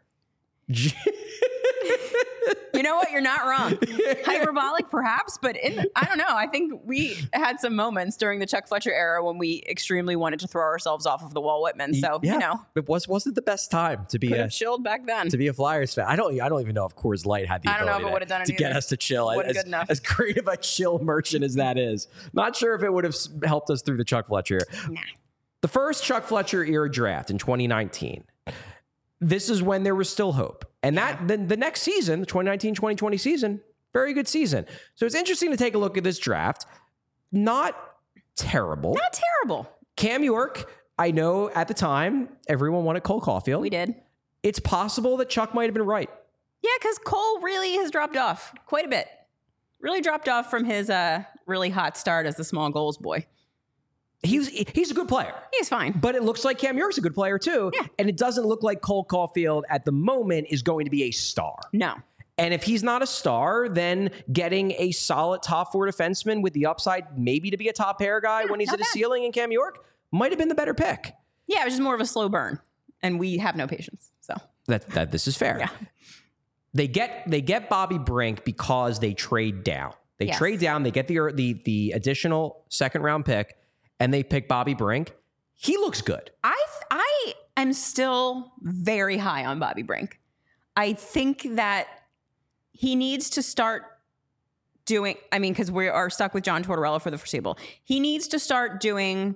You know what? You're not wrong. Hyperbolic, perhaps, but in, I don't know. I think we had some moments during the Chuck Fletcher era when we extremely wanted to throw ourselves off of the Walt Whitman. So, Yeah. you know, It was, wasn't the best time to be could a, have chilled back then. to be a Flyers fan. I don't I don't even know if Coors Light had the I don't know if ability it to- would've done it to get either. us to chill. Wasn't As, good enough. as great of a chill merchant as that is. Not sure if it would have s- helped us through the Chuck Fletcher era. Nah. The first Chuck Fletcher era draft in twenty nineteen. This is when there was still hope. And that then the next season, the twenty nineteen twenty twenty season, very good season. So it's interesting to take a look at this draft. Not terrible. Not terrible. Cam York, I know at the time everyone wanted Cole Caulfield. We did. It's possible that Chuck might have been right. Yeah, because Cole really has dropped off quite a bit. Really dropped off from his uh, really hot start as the small goals boy. He's he's a good player. He's fine. But it looks like Cam York's a good player too. Yeah. And it doesn't look like Cole Caulfield at the moment is going to be a star. No. And if he's not a star, then getting a solid top four defenseman with the upside maybe to be a top pair guy Yeah, when he's not at a bad. ceiling in Cam York might have been the better pick. Yeah, it was just more of a slow burn. And we have no patience. So, That that this is fair. yeah. They get they get Bobby Brink because they trade down. They Yes. trade down, they get the the the additional second round pick, and they pick Bobby Brink. He looks good. I th- I am still very high on Bobby Brink. I think that he needs to start doing, I mean, because we are stuck with John Tortorella for the foreseeable. He needs to start doing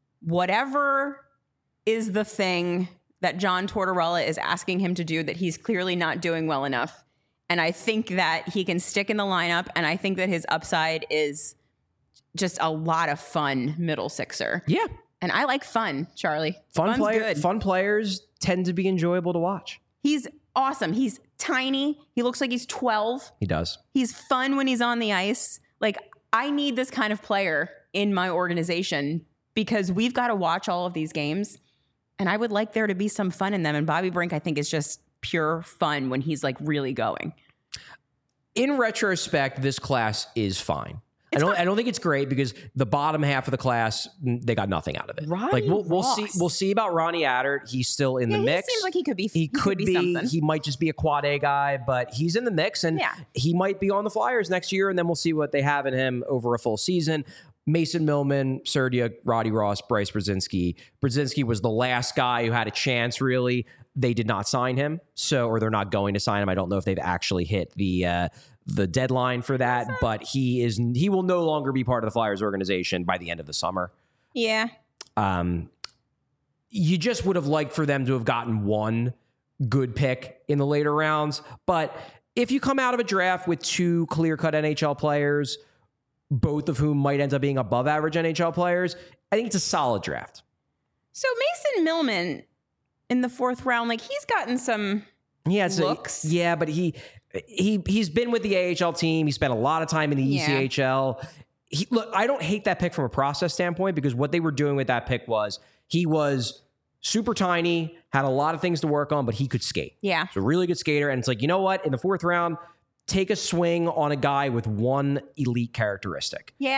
whatever is the thing that John Tortorella is asking him to do that he's clearly not doing well enough. And I think that he can stick in the lineup, and I think that his upside is just a lot of fun middle sixer. Yeah. And I like fun, Charlie. Fun Fun's player, good. fun players tend to be enjoyable to watch. He's awesome. He's tiny. He looks like he's twelve. He does. He's fun when he's on the ice. Like, I need this kind of player in my organization because we've got to watch all of these games. And I would like there to be some fun in them. And Bobby Brink, I think, is just pure fun when he's like really going. In retrospect, this class is fine. I don't. fine. I don't think it's great because the bottom half of the class, mm, they got nothing out of it. Ronnie like we'll, we'll Ross. see. We'll see about Ronnie Adert. He's still in Yeah, the he mix. seems like he could be. He, could be. something. He might just be a quad A guy, but he's in the mix, and Yeah. he might be on the Flyers next year. And then we'll see what they have in him over a full season. Mason Millman, Serdia, Roddy Ross, Bryce Brzezinski. Brzezinski was the last guy who had a chance. Really, they did not sign him, so or they're not going to sign him. I don't know if they've actually hit the. Uh, the deadline for that, but he is he will no longer be part of the Flyers organization by the end of the summer. Yeah. Um, you just would have liked for them to have gotten one good pick in the later rounds, but if you come out of a draft with two clear-cut N H L players, both of whom might end up being above average N H L players, I think it's a solid draft. So Mason Millman in the fourth round, like he's gotten some Yeah, so, looks. yeah, but he he he's been with the A H L team. He spent a lot of time in the Yeah. E C H L. He, look, I don't hate that pick from a process standpoint because what they were doing with that pick was he was super tiny, had a lot of things to work on, but he could skate. Yeah. He's a really good skater. And it's like, you know what? In the fourth round, take a swing on a guy with one elite characteristic. Yeah.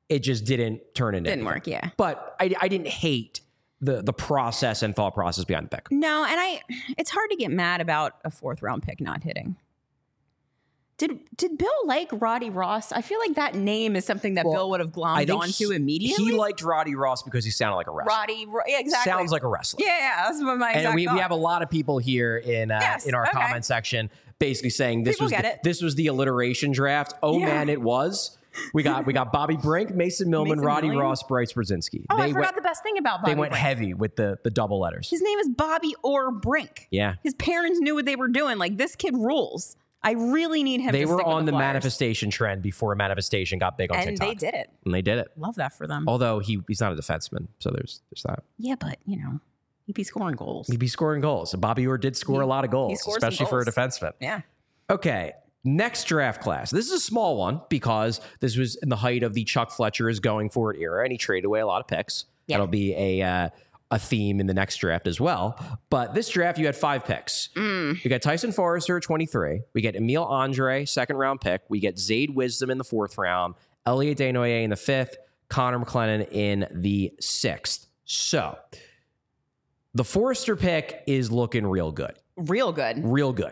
It just didn't turn into Didn't anything. work, yeah. But I, I didn't hate the the process and thought process behind the pick. No, and I it's hard to get mad about a fourth round pick not hitting. Did did Bill like Roddy Ross? I feel like that name is something that Well, Bill would have I glommed think onto he- immediately. He liked Roddy Ross because he sounded like a wrestler. Roddy, Ro- yeah, exactly. Sounds like a wrestler. yeah, yeah, that's what my exact And we, we thought. have a lot of people here in uh, Yes, in our okay. comment section basically saying this People was get the, it. this was the alliteration draft. Oh Yeah. man, it was. We got we got Bobby Brink, Mason Millman, Mason Roddy Millman. Ross, Bryce Brzezinski. Oh, they I forgot went, the best thing about Bobby they went Brink. heavy with the the double letters. His name is Bobby Orr Brink. Yeah. His parents knew what they were doing. Like, this kid rules. I really need him They to were stick with on the Flyers. manifestation trend before manifestation got big on And TikTok. they did it. And they did it. Love that for them. Although he he's not a defenseman, so there's there's that. Yeah, but, you know, he'd be scoring goals. He'd be scoring goals. Bobby Orr did score He- a lot of he goals, scored some especially for a goals. defenseman. Yeah. Okay, next draft class. This is a small one because this was in the height of the Chuck Fletcher is going for it era, and he traded away a lot of picks. Yeah. That'll be a uh, a theme in the next draft as well. But this draft, you had five picks. Mm. We got Tyson Forrester at twenty-three. We get Emile Andre, second round pick. We get Zayd Wisdom in the fourth round. Elliot Desnoyers in the fifth. Connor McLennan in the sixth. So the Forrester pick is looking real good. Real good. Real good.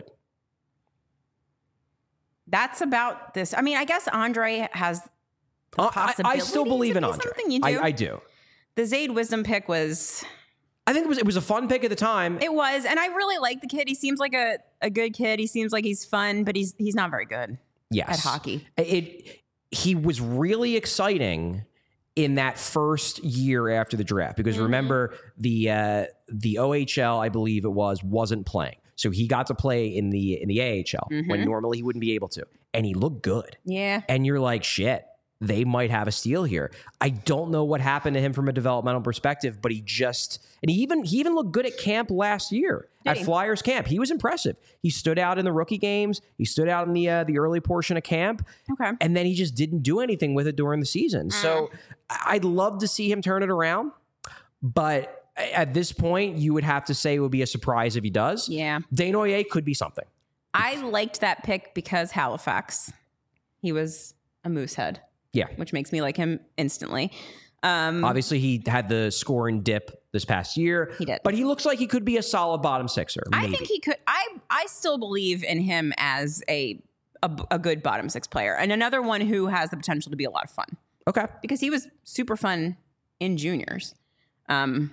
That's about this. I mean, I guess Andre has the Uh, I, I possibility still believe to in be Andre. something. You do? I, I do. The Zayd Wisdom pick was, I think it was it was a fun pick at the time. it was, and I really like the kid. He seems like a, a good kid. He seems like he's fun, but he's he's not very good yes. at hockey. It he was really exciting in that first year after the draft because Mhm. remember the uh, the O H L I believe it was wasn't playing, so he got to play in the in the A H L when Mhm. normally he wouldn't be able to, and he looked good. Yeah. And you're like, shit, they might have a steal here. I don't know what happened to him from a developmental perspective, but he just and he even he even looked good at camp last year Did at he? Flyers camp. He was impressive. He stood out in the rookie games. He stood out in the uh, the early portion of camp, Okay. and then he just didn't do anything with it during the season. So I- I'd love to see him turn it around, but at this point, you would have to say it would be a surprise if he does. Yeah. Desnoyers could be something. I liked that pick because Halifax. He was a moosehead, Yeah. which makes me like him instantly. Um, Obviously, he had the score and dip this past year. He did. But he looks like he could be a solid bottom sixer. I maybe. think he could. I I still believe in him as a, a a good bottom six player and another one who has the potential to be a lot of fun Okay. because he was super fun in juniors. Um,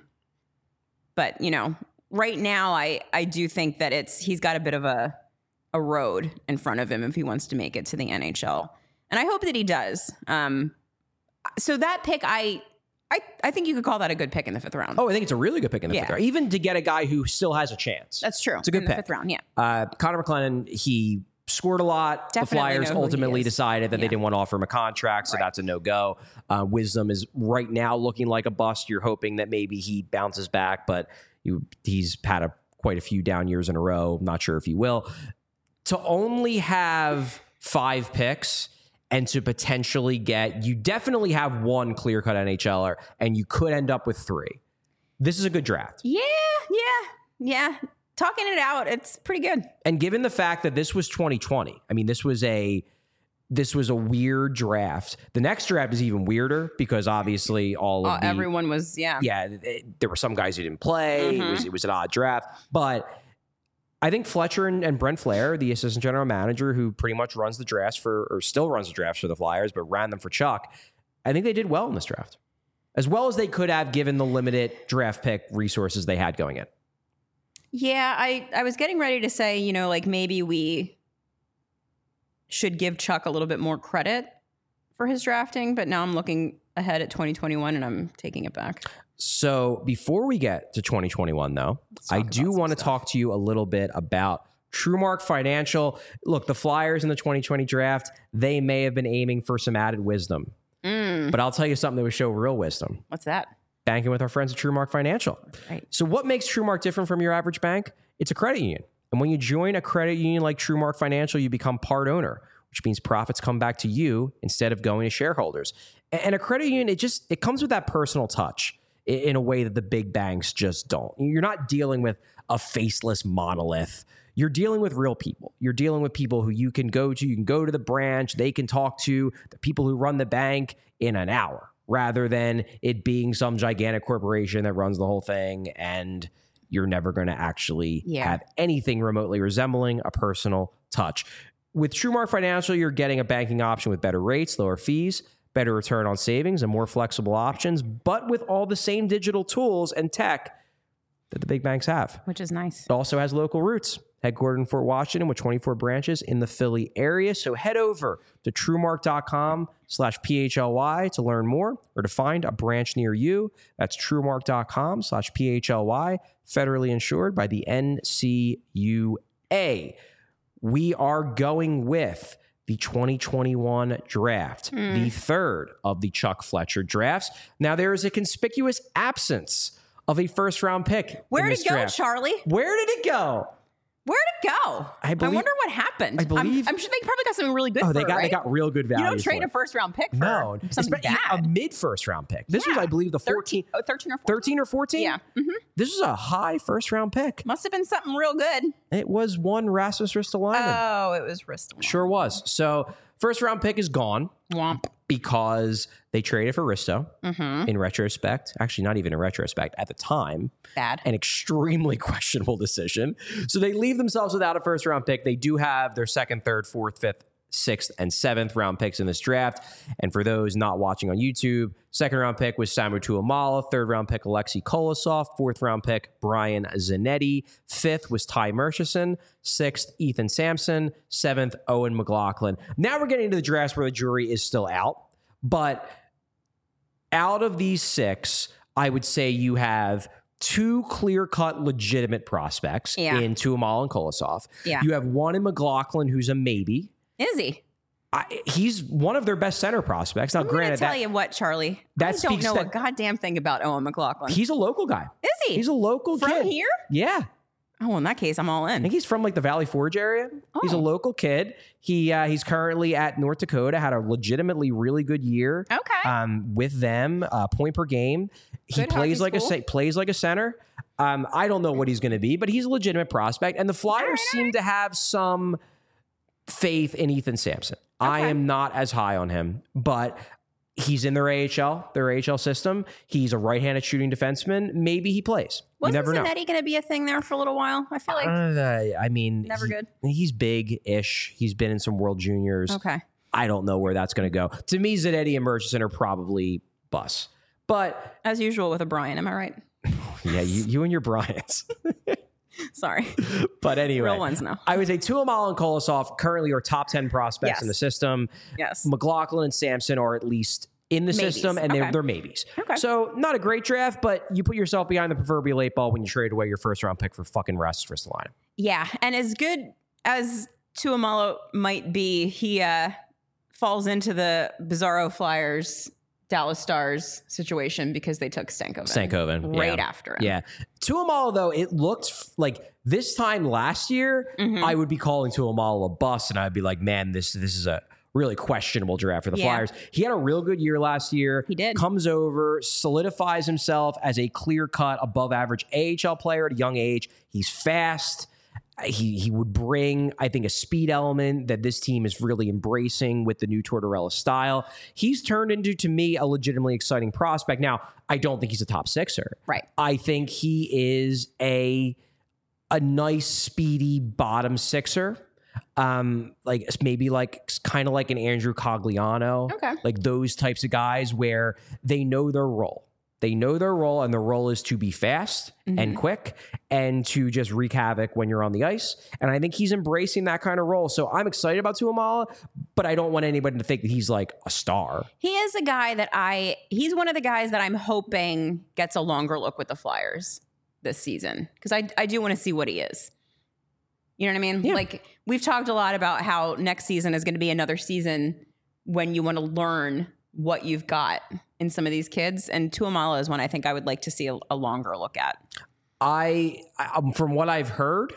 but you know, right now I I do think that it's he's got a bit of a a road in front of him if he wants to make it to the N H L, and I hope that he does. Um, so that pick I. I, I think you could call that a good pick in the fifth round. Oh, I think it's a really good pick in the Yeah. fifth round, even to get a guy who still has a chance. That's true. It's a good in the pick. fifth round, yeah. Uh, Connor McLennan, he scored a lot. Definitely the Flyers know who he ultimately is. decided that they Yeah. didn't want to offer him a contract, so Right. that's a no-go. Uh, Wisdom is right now looking like a bust. You're hoping that maybe he bounces back, but you, he's had a, quite a few down years in a row. Not sure if he will. To only have five picks and to potentially get, you definitely have one clear-cut N H L er, and you could end up with three. This is a good draft. Yeah, yeah, yeah. Talking it out, it's pretty good. And given the fact that this was twenty twenty, I mean, this was a this was a weird draft. The next draft is even weirder because obviously all of Uh, the everyone was, yeah. yeah, it- there were some guys who didn't play. It was Mhm. it was an odd draft, but I think Fletcher and, and Brent Flair, the assistant general manager, who pretty much runs the drafts for or still runs the drafts for the Flyers, but ran them for Chuck, I think they did well in this draft, as well as they could have given the limited draft pick resources they had going in. Yeah, I, I was getting ready to say, you know, like maybe we should give Chuck a little bit more credit for his drafting, but now I'm looking ahead at twenty twenty-one and I'm taking it back. So before we get to twenty twenty-one, though, I talk do about some want to stuff. talk to you a little bit about TrueMark Financial. Look, the Flyers in the twenty twenty draft, they may have been aiming for some added wisdom, Mm, but I'll tell you something that would show real wisdom. what's that? Banking with our friends at TrueMark Financial. Right. So what makes TrueMark different from your average bank? It's a credit union. And when you join a credit union like TrueMark Financial, you become part owner, which means profits come back to you instead of going to shareholders. And a credit union, it just it comes with that personal touch in a way that the big banks just don't. You're not dealing with a faceless monolith. you're dealing with real people. You're dealing with people who you can go to. You can go to the branch. They can talk to the people who run the bank in an hour, rather than it being some gigantic corporation that runs the whole thing, and you're never going to actually Yeah. have anything remotely resembling a personal touch. With TrueMark Financial, you're getting a banking option with better rates, lower fees, better return on savings, and more flexible options, but with all the same digital tools and tech that the big banks have. Which is nice. It also has local roots, headquartered in Fort Washington with twenty-four branches in the Philly area. So head over to truemark.com slash PHLY to learn more or to find a branch near you. That's truemark.com slash PHLY, federally insured by the N C U A. We are going with the twenty twenty-one draft, Mm. the third of the Chuck Fletcher drafts. Now, there is a conspicuous absence of a first round pick. Where in did this it go, draft. Charlie? Where did it go? Where'd it go? I believe- wonder what happened. I believe- I'm, I'm sure they probably got something really good Oh, for they it, got they right? got real good value. You don't trade for a it. first round pick for No, something Espe- bad. a mid first round pick. This was, Yeah. I believe, the thirteen, fourteen, oh, thirteen or fourteen. thirteen or fourteen. Yeah. Mhm. This was a high first round pick. Must have been something real good. It was one Rasmus Ristolainen. Oh, it was Ristolainen. Sure was. So first round pick is gone Womp. because they traded for Risto. Mm-hmm. In retrospect, actually not even in retrospect, at the time, Bad. an extremely questionable decision. So they leave themselves without a first round pick. They do have their second, third, fourth, fifth, sixth, and seventh round picks in this draft. And for those not watching on YouTube, second round pick was Samu Tuamala, third round pick Alexei Kolosov, fourth round pick Brian Zanetti, fifth was Ty Murchison, sixth Ethan Sampson, seventh Owen McLaughlin. Now we're getting into the drafts where the jury is still out, but out of these six, I would say you have two clear-cut legitimate prospects Yeah. in Tuamala and Kolosov. Yeah. You have one in McLaughlin who's a maybe. Is he? I, he's one of their best center prospects. Now, I'm going to granted, tell that you what, Charlie. that I don't speaks know that- a goddamn thing about Owen McLaughlin. he's a local guy. Is he? He's a local From kid. here? Yeah. Oh, well, in that case, I'm all I in. think he's from like the Valley Forge area. He's a Oh. local kid. He uh, he's currently at North Dakota. Had a legitimately really good year. Okay. Um, with them, uh, point per game. He Good plays hockey like a school. sa- plays like a center. Um, I don't know what he's going to be, but he's a legitimate prospect. And the Flyers right, seem to have some faith in Ethan Sampson. I Okay. am not as high on him, but he's in their A H L, their A H L system. He's a right-handed shooting defenseman. Maybe he plays. You Wasn't never know. Zanetti going to be a thing there for a little while? I feel like. Uh, I mean, Never he- good. He's big-ish. He's been in some World Juniors. Okay. I don't know where that's going to go. To me, Zanetti and Murchison are probably bus. But As usual with O'Brien, am I right? yeah, you, you and your Bryants. Sorry. But anyway, Real ones now. I would say Tuamala and Kolosov currently are top ten prospects Yes. in the system. Yes. McLaughlin and Sampson are at least in the Maybes. system, and they're, Okay. they're maybes. Okay. So not a great draft, but you put yourself behind the proverbial eight ball when you trade away your first round pick for fucking Rasmus Ristolainen. Yeah. And as good as Tuamalo might be, he uh, falls into the Bizarro Flyers, Dallas Stars situation because they took Stankoven. Stankoven, Right yeah. after him. Yeah. Tuamala, though, it looked f- like this time last year, Mhm. I would be calling Tuamala a bust, and I'd be like, man, this this is a really questionable draft for the Yeah. Flyers. He had a real good year last year. He did. Comes over, solidifies himself as a clear-cut, above-average A H L player at a young age. He's fast. He he would bring, I think, a speed element that this team is really embracing with the new Tortorella style. He's turned into, to me, a legitimately exciting prospect. Now, I don't think he's a top sixer. Right. I think he is a a nice, speedy bottom sixer. Um, like maybe like kind of like an Andrew Cogliano. Okay. Like those types of guys where they know their role. They know their role, and the role is to be fast Mm-hmm. and quick and to just wreak havoc when you're on the ice. And I think he's embracing that kind of role. So I'm excited about Tuamala, but I don't want anybody to think that he's like a star. He is a guy that I, he's one of the guys that I'm hoping gets a longer look with the Flyers this season because I, I do want to see what he is. You know what I mean? Yeah. Like we've talked a lot about how next season is going to be another season when you want to learn what you've got in some of these kids. And Tuamala is one I think I would like to see a, a longer look at. I, I um, from what I've heard,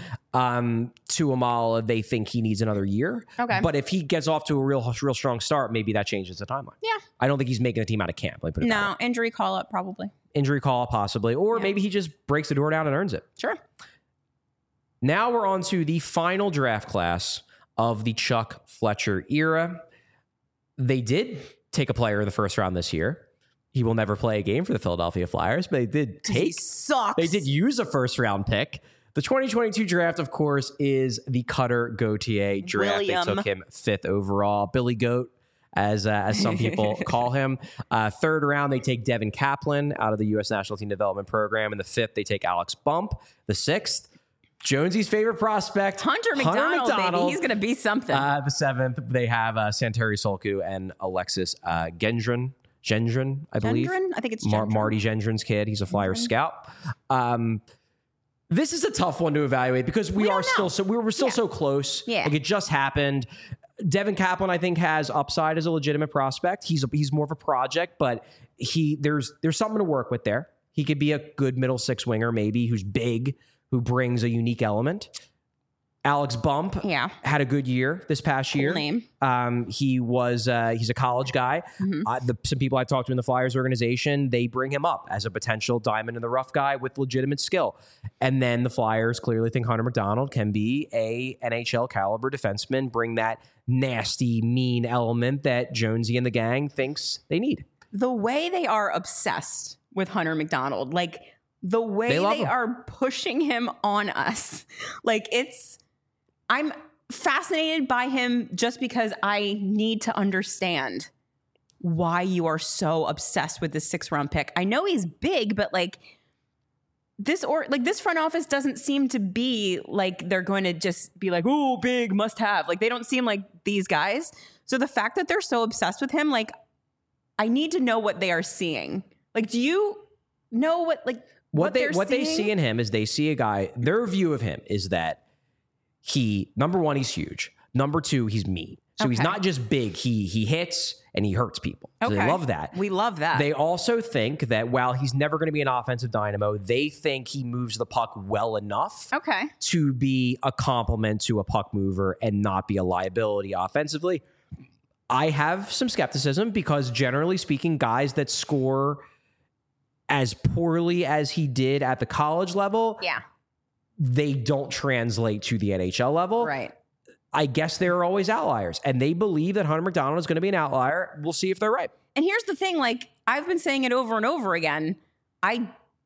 um, Tuamala, they think he needs another year. Okay. But if he gets off to a real, real strong start, maybe that changes the timeline. Yeah. I don't think he's making the team out of camp. Let me put it that way. No, injury call up probably. Injury call, possibly, or Yeah. maybe he just breaks the door down and earns it. Sure. Now we're on to the final draft class of the Chuck Fletcher era. They did take a player in the first round this year. He will never play a game for the Philadelphia Flyers, but they did take. He sucks. They did use a first round pick. The twenty twenty-two draft, of course, is the Cutter Gauthier draft. William. They took him fifth overall. Billy Goat, as uh, as some people call him. Uh, third round, they take Devin Kaplan out of the U S National Team Development Program. In the fifth, they take Alex Bump. The sixth, Jonesy's favorite prospect, Hunter McDonald, McDonald. baby. He's going to be something. Uh, the seventh, they have uh, Santeri Solku and Alexis uh, Gendron. Gendron, I believe. Gendron? I think it's Mar- Gendron. Marty Gendron's kid. He's a Flyers scout. Um, this is a tough one to evaluate because we, We are don't still know. so we were still Yeah. so close. Yeah. Like it just happened. Devin Kaplan, I think, has upside as a legitimate prospect. He's a, he's more of a project, but he there's there's something to work with there. He could be a good middle six winger, maybe, who's big, who brings a unique element. Alex Bump Yeah. had a good year this past year. name. Um, he was uh, he's a college guy. Mm-hmm. Uh, the, some people I've talked to in the Flyers organization, they bring him up as a potential diamond in the rough guy with legitimate skill. And then the Flyers clearly think Hunter McDonald can be a N H L caliber defenseman, bring that nasty, mean element that Jonesy and the gang thinks they need. The way they are obsessed with Hunter McDonald, like the way They they, love him. are pushing him on us, like it's, I'm fascinated by him just because I need to understand why you are so obsessed with this six round pick. I know he's big, but like this or like this front office doesn't seem to be like they're going to just be like, oh, big must have. Like they don't seem like these guys. So the fact that they're so obsessed with him, like I need to know what they are seeing. Like, do you know what like What, what they they're what they seeing? see in him is they see a guy. Their view of him is that he number one, he's huge. Number two, he's mean. So he's Okay. not just big. He he hits and he hurts people. So Okay. they love that. We love that. They also think that while he's never going to be an offensive dynamo, they think he moves the puck well enough okay. to be a complement to a puck mover and not be a liability offensively. I have some skepticism because generally speaking, guys that score as poorly as he did at the college level, Yeah. they don't translate to the N H L level. Right. I guess there are always outliers, and they believe that Hunter McDonald is going to be an outlier. We'll see if they're right. And here's the thing, like I've been saying it over and over again. I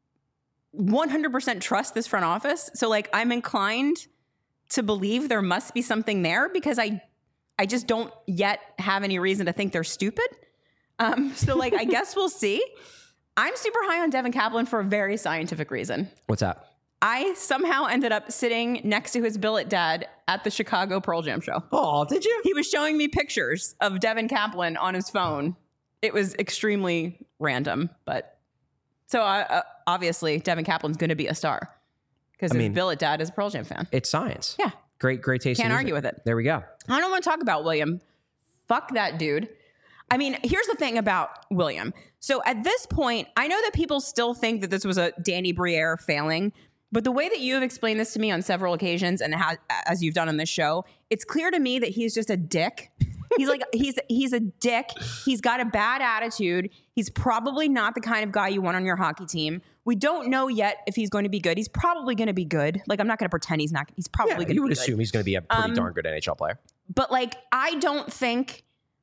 one hundred percent trust this front office. So like I'm inclined to believe there must be something there because I I just don't yet have any reason to think they're stupid. Um, so like I guess we'll see. I'm super high on Devin Kaplan for a very scientific reason. What's that? I somehow ended up sitting next to his billet dad at the Chicago Pearl Jam show. Oh, did you? He was showing me pictures of Devin Kaplan on his phone. It was extremely random, but so uh, uh, obviously Devin Kaplan's going to be a star because I his mean- billet dad is a Pearl Jam fan. It's science. Yeah. Great, great taste. Can't in argue music. with it. There we go. I don't want to talk about William. Fuck that dude. I mean, here's the thing about William. So at this point, I know that people still think that this was a Danny Briere failing, but the way that you have explained this to me on several occasions and ha- as you've done on this show, it's clear to me that he's just a dick. He's like, he's he's a dick. He's got a bad attitude. He's probably not the kind of guy you want on your hockey team. We don't know yet if he's going to be good. He's probably going to be good. Like, I'm not going to pretend he's not. He's probably Yeah, going to be you would good. assume he's going to be a pretty Um, darn good N H L player. But like, I don't think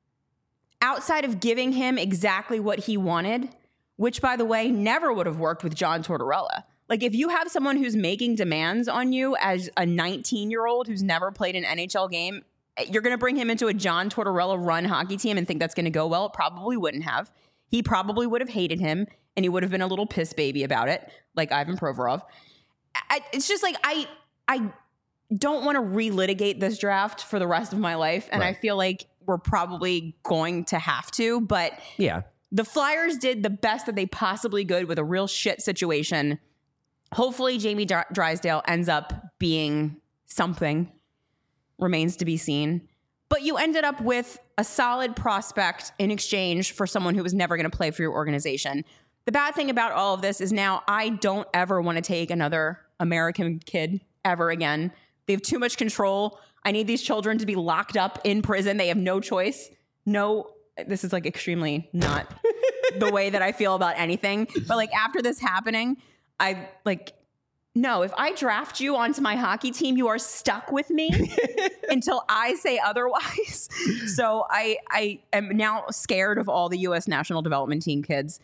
outside of giving him exactly what he wanted, which by the way, never would have worked with John Tortorella. Like if you have someone who's making demands on you as a nineteen year old who's never played an N H L game, you're going to bring him into a John Tortorella run hockey team and think that's going to go well. It probably wouldn't have. He probably would have hated him and he would have been a little piss baby about it, like Ivan Provorov. I, it's just like, I, I don't want to relitigate this draft for the rest of my life. And Right. I feel like we're probably going to have to, but Yeah. the Flyers did the best that they possibly could with a real shit situation. Hopefully Jamie Dr- Drysdale ends up being something. Remains to be seen. But you ended up with a solid prospect in exchange for someone who was never going to play for your organization. The bad thing about all of this is now I don't ever want to take another American kid ever again. They have too much control. I need these children to be locked up in prison. They have no choice. No, this is like extremely not the way that I feel about anything. But like after this happening, I like No, if I draft you onto my hockey team, you are stuck with me until I say otherwise. So I I am now scared of all the U S national development team kids.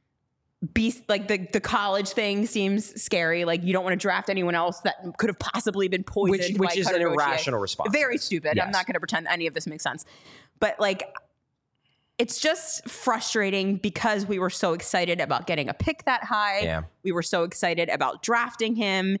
Be like the the college thing seems scary. Like you don't want to draft anyone else that could have possibly been poisoned. Which, which by is Cutter an Gauthier. irrational response. Very stupid. Yes. I'm not going to pretend any of this makes sense. But like, it's just frustrating because we were so excited about getting a pick that high. Yeah. We were so excited about drafting him.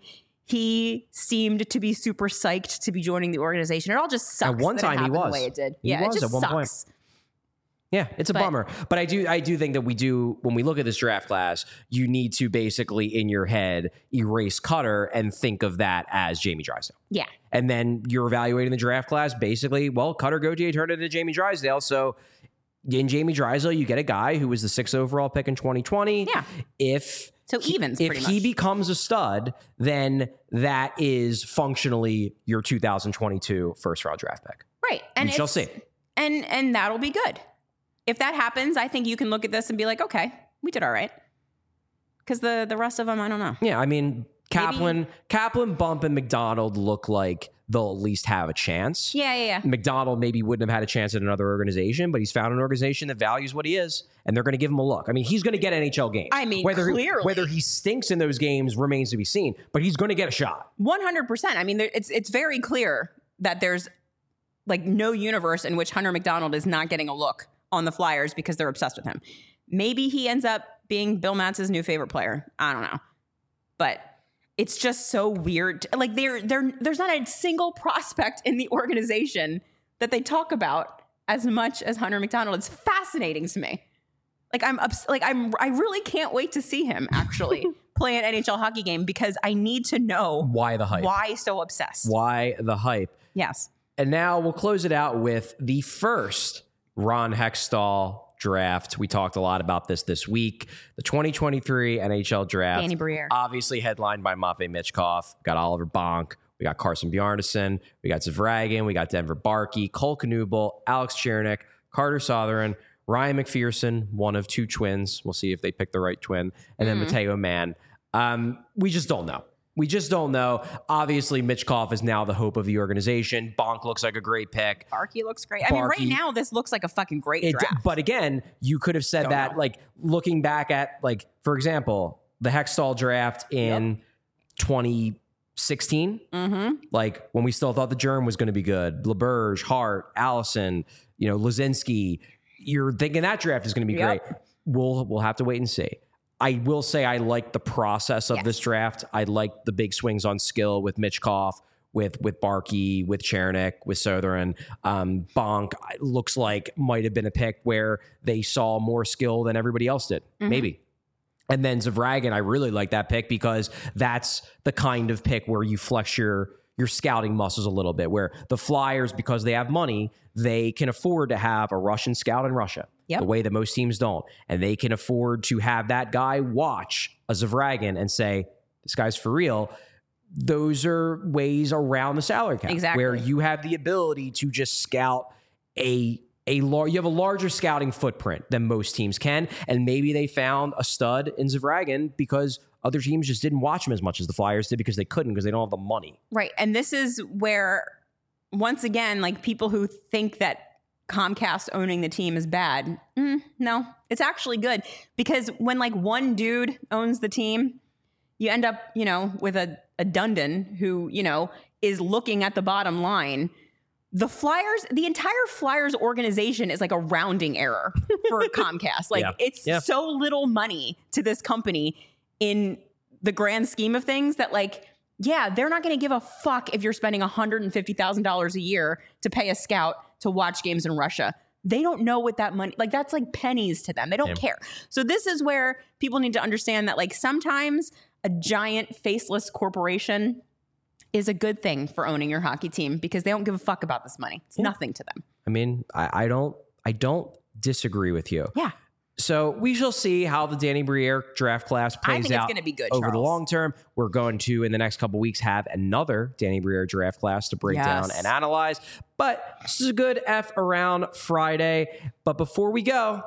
He seemed to be super psyched to be joining the organization. It all just sucks. At one that it time, he happened was. the way it did. He yeah, was it just at one point. sucks. Yeah, it's a But- bummer. But I do I do think that we do, when we look at this draft class, you need to basically in your head erase Cutter and think of that as Jamie Drysdale. Yeah. And then you're evaluating the draft class basically, well, Cutter Gauthier turned into Jamie Drysdale. So in Jamie Drysdale, you get a guy who was the sixth overall pick in twenty twenty. Yeah. If So he- evens, if pretty he much. becomes a stud, then that is functionally your two thousand twenty-two first round draft pick. Right. And We shall it's- see. And and that'll be good. If that happens, I think you can look at this and be like, okay, we did all right. Because the the rest of them, I don't know. Yeah, I mean, Kaplan, Kaplan, Bump, and McDonald look like they'll at least have a chance. Yeah, yeah, yeah. McDonald maybe wouldn't have had a chance at another organization, but he's found an organization that values what he is, and they're going to give him a look. I mean, he's going to get N H L games. I mean, whether clearly. whether he stinks in those games remains to be seen, but he's going to get a shot. one hundred percent. I mean, there, it's it's very clear that there's like no universe in which Hunter McDonald is not getting a look on the Flyers because they're obsessed with him. Maybe he ends up being Bill Matz's new favorite player. I don't know. But it's just so weird. Like there there there's not a single prospect in the organization that they talk about as much as Hunter McDonald. It's fascinating to me. Like I'm ups- like I'm I really can't wait to see him actually play an N H L hockey game because I need to know Why the hype? why so obsessed. Why the hype? Yes. And now we'll close it out with the first Ron Hextall draft. We talked a lot about this this week. The twenty twenty-three N H L draft. Danny Briere. Obviously headlined by Matvei Michkov. Got Oliver Bonk. We got Carson Bjarnason. We got Zavragin. We got Denver Barkey. Cole Knuble. Alex Chernik. Carter Sotheran. Ryan McPherson. One of two twins. We'll see if they pick the right twin. And then Mateo Mann. Um, we just don't know. We just don't know. Obviously, Michkov is now the hope of the organization. Bonk looks like a great pick. Barkey looks great. I mean, right Barkey- now, this looks like a fucking great It, draft. but again, you could have said Don't that, know. like, looking back at, like, for example, the Hextall draft in twenty sixteen, Mm-hmm. like, when we still thought the germ was going to be good. LeBurge, Hart, Allison, you know, Lazinski. You're thinking that draft is going to be Yep. great. We'll we'll have to wait and see. I will say I like the process of Yes. this draft. I like the big swings on skill with Michkov, with with Barkey, with Chernik, with Sotheran. Um, Bonk looks like might have been a pick where they saw more skill than everybody else did, maybe. And then Zavragin, I really like that pick because that's the kind of pick where you flex your your scouting muscles a little bit, where the Flyers, because they have money, they can afford to have a Russian scout in Russia, Yep. the way that most teams don't. And they can afford to have that guy watch a Zavragin and say, this guy's for real. Those are ways around the salary cap, Exactly. where you have the ability to just scout a a lar- you have a larger scouting footprint than most teams can, and maybe they found a stud in Zavragin because other teams just didn't watch him as much as the Flyers did because they couldn't because they don't have the money. Right. And this is where, once again, like people who think that Comcast owning the team is bad. Mm, no, it's actually good because when like one dude owns the team, you end up, you know, with a, a Dundon who, you know, is looking at the bottom line. The Flyers, the entire Flyers organization is like a rounding error for Comcast. Like Yeah. it's Yeah. so little money to this company in the grand scheme of things that like, yeah, they're not going to give a fuck if you're spending one hundred fifty thousand dollars a year to pay a scout to watch games in Russia. They don't know what that money, like that's like pennies to them. They don't Yeah. care. So this is where people need to understand that like sometimes a giant faceless corporation is a good thing for owning your hockey team because they don't give a fuck about this money. It's nothing to them. I mean, I, I don't I don't disagree with you. Yeah. So we shall see how the Danny Briere draft class I plays think it's out gonna be good, over the Charles. long term. We're going to, in the next couple weeks, have another Danny Briere draft class to break Yes. down and analyze. But this is a good F around Friday. But before we go,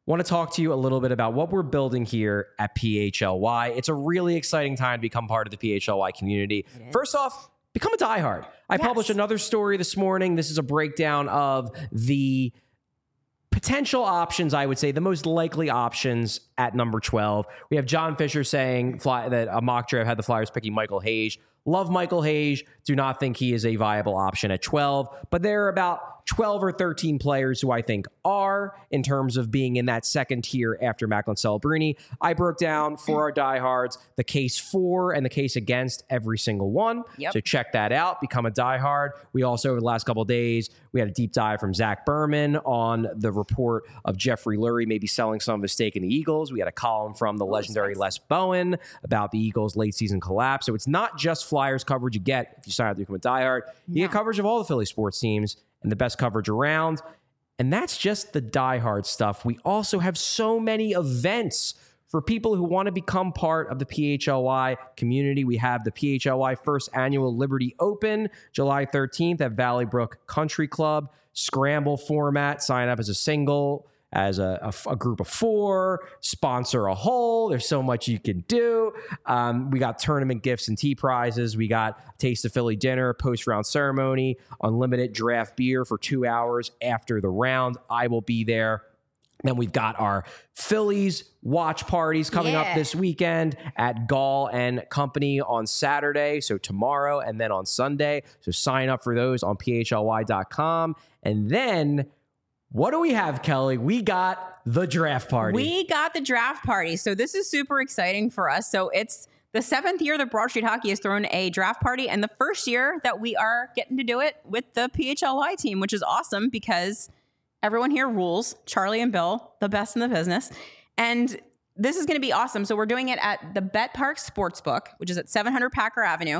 want to talk to you a little bit about what we're building here at P H L Y. It's a really exciting time to become part of the P H L Y community. First off, become a diehard. I Yes. published another story this morning. This is a breakdown of the potential options, I would say, the most likely options at number twelve. We have John Fisher saying fly, that a mock draft had the Flyers picking Michael Hayes. Love Michael Hayes. Do not think he is a viable option at twelve. But there are about twelve or thirteen players who I think are in terms of being in that second tier after Macklin Celebrini. I broke down for our diehards the case for and the case against every single one. Yep. So check that out. Become a diehard. We also, over the last couple of days, we had a deep dive from Zach Berman on the report of Jeffrey Lurie maybe selling some of his stake in the Eagles. We had a column from the legendary Les Bowen about the Eagles' late season collapse. So it's not just Flyers coverage you get if you sign up to become a diehard. You No. get coverage of all the Philly sports teams and the best coverage around. And that's just the diehard stuff. We also have so many events for people who want to become part of the P H L Y community. We have the P H L Y First Annual Liberty Open, July thirteenth at Valley Brook Country Club. Scramble format. Sign up as a single, as a, a, a group of four, sponsor a whole. There's so much you can do. Um, we got tournament gifts and tea prizes. We got Taste of Philly dinner, post-round ceremony, unlimited draft beer for two hours after the round. I will be there. Then we've got our Phillies watch parties coming Yeah. up this weekend at Gall and Company on Saturday, so tomorrow, and then on Sunday. So sign up for those on P H L Y dot com. And then what do we have, Kelly? We got the draft party. We got the draft party. So this is super exciting for us. So it's the seventh year that Broad Street Hockey has thrown a draft party, and the first year that we are getting to do it with the P H L Y team, which is awesome because everyone here rules. Charlie and Bill, the best in the business. And this is going to be awesome. So we're doing it at the Bet Park Sportsbook, which is at seven hundred Packer Avenue.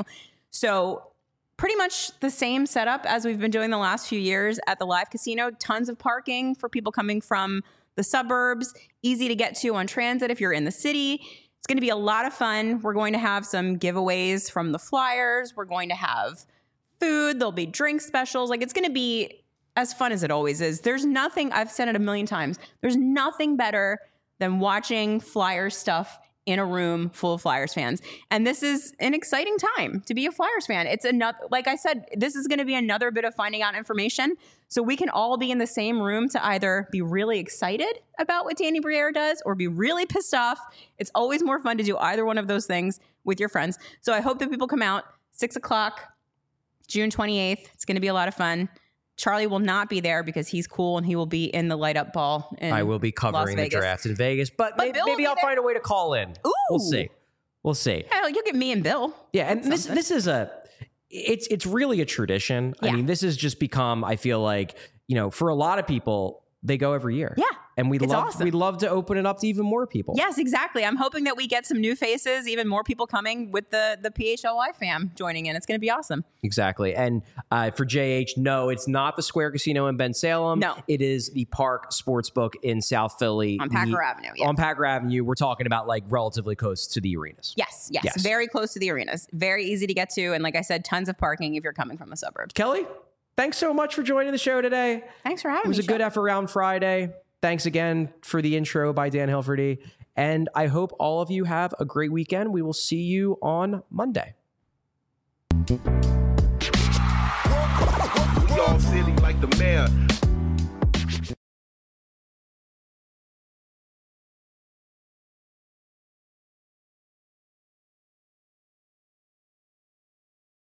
So pretty much the same setup as we've been doing the last few years at the live casino. Tons of parking for people coming from the suburbs. Easy to get to on transit if you're in the city. It's going to be a lot of fun. We're going to have some giveaways from the Flyers. We're going to have food. There'll be drink specials. Like, it's going to be as fun as it always is. There's nothing, I've said it a million times, there's nothing better than watching Flyers stuff in a room full of Flyers fans. And this is an exciting time to be a Flyers fan. It's another, like I said, this is going to be another bit of finding out information. So we can all be in the same room to either be really excited about what Danny Briere does or be really pissed off. It's always more fun to do either one of those things with your friends. So I hope that people come out six o'clock, June twenty-eighth. It's going to be a lot of fun. Charlie will not be there because he's cool and he will be in the light up ball. In I will be Las covering the Vegas. draft in Vegas, but, But maybe, Bill will maybe be I'll there. find a way to call in. Ooh. We'll see. We'll see. Hell, you'll get me and Bill. Yeah, and That's this something. this is a it's it's really a tradition. I Yeah. mean, this has just become, I feel like, you know, for a lot of people, they go every year. Yeah, And we'd it's love awesome. we'd love to open it up to even more people. Yes, exactly. I'm hoping that we get some new faces, even more people coming with the the P H L Y fam joining in. It's going to be awesome. Exactly. And uh, for J H, no, it's not the Square Casino in Ben Salem. No. It is the Park Sportsbook in South Philly. On Packer The- Avenue, yeah. On Packer Avenue. We're talking about like relatively close to the arenas. Yes, yes, Yes. very close to the arenas. Very easy to get to. And like I said, tons of parking if you're coming from the suburbs. Kelly, thanks so much for joining the show today. Thanks for having It was me. a good Chuck. effort round Friday. Thanks again for the intro by Dan Hilferty. And I hope all of you have a great weekend. We will see you on Monday. We all silly like the mayor.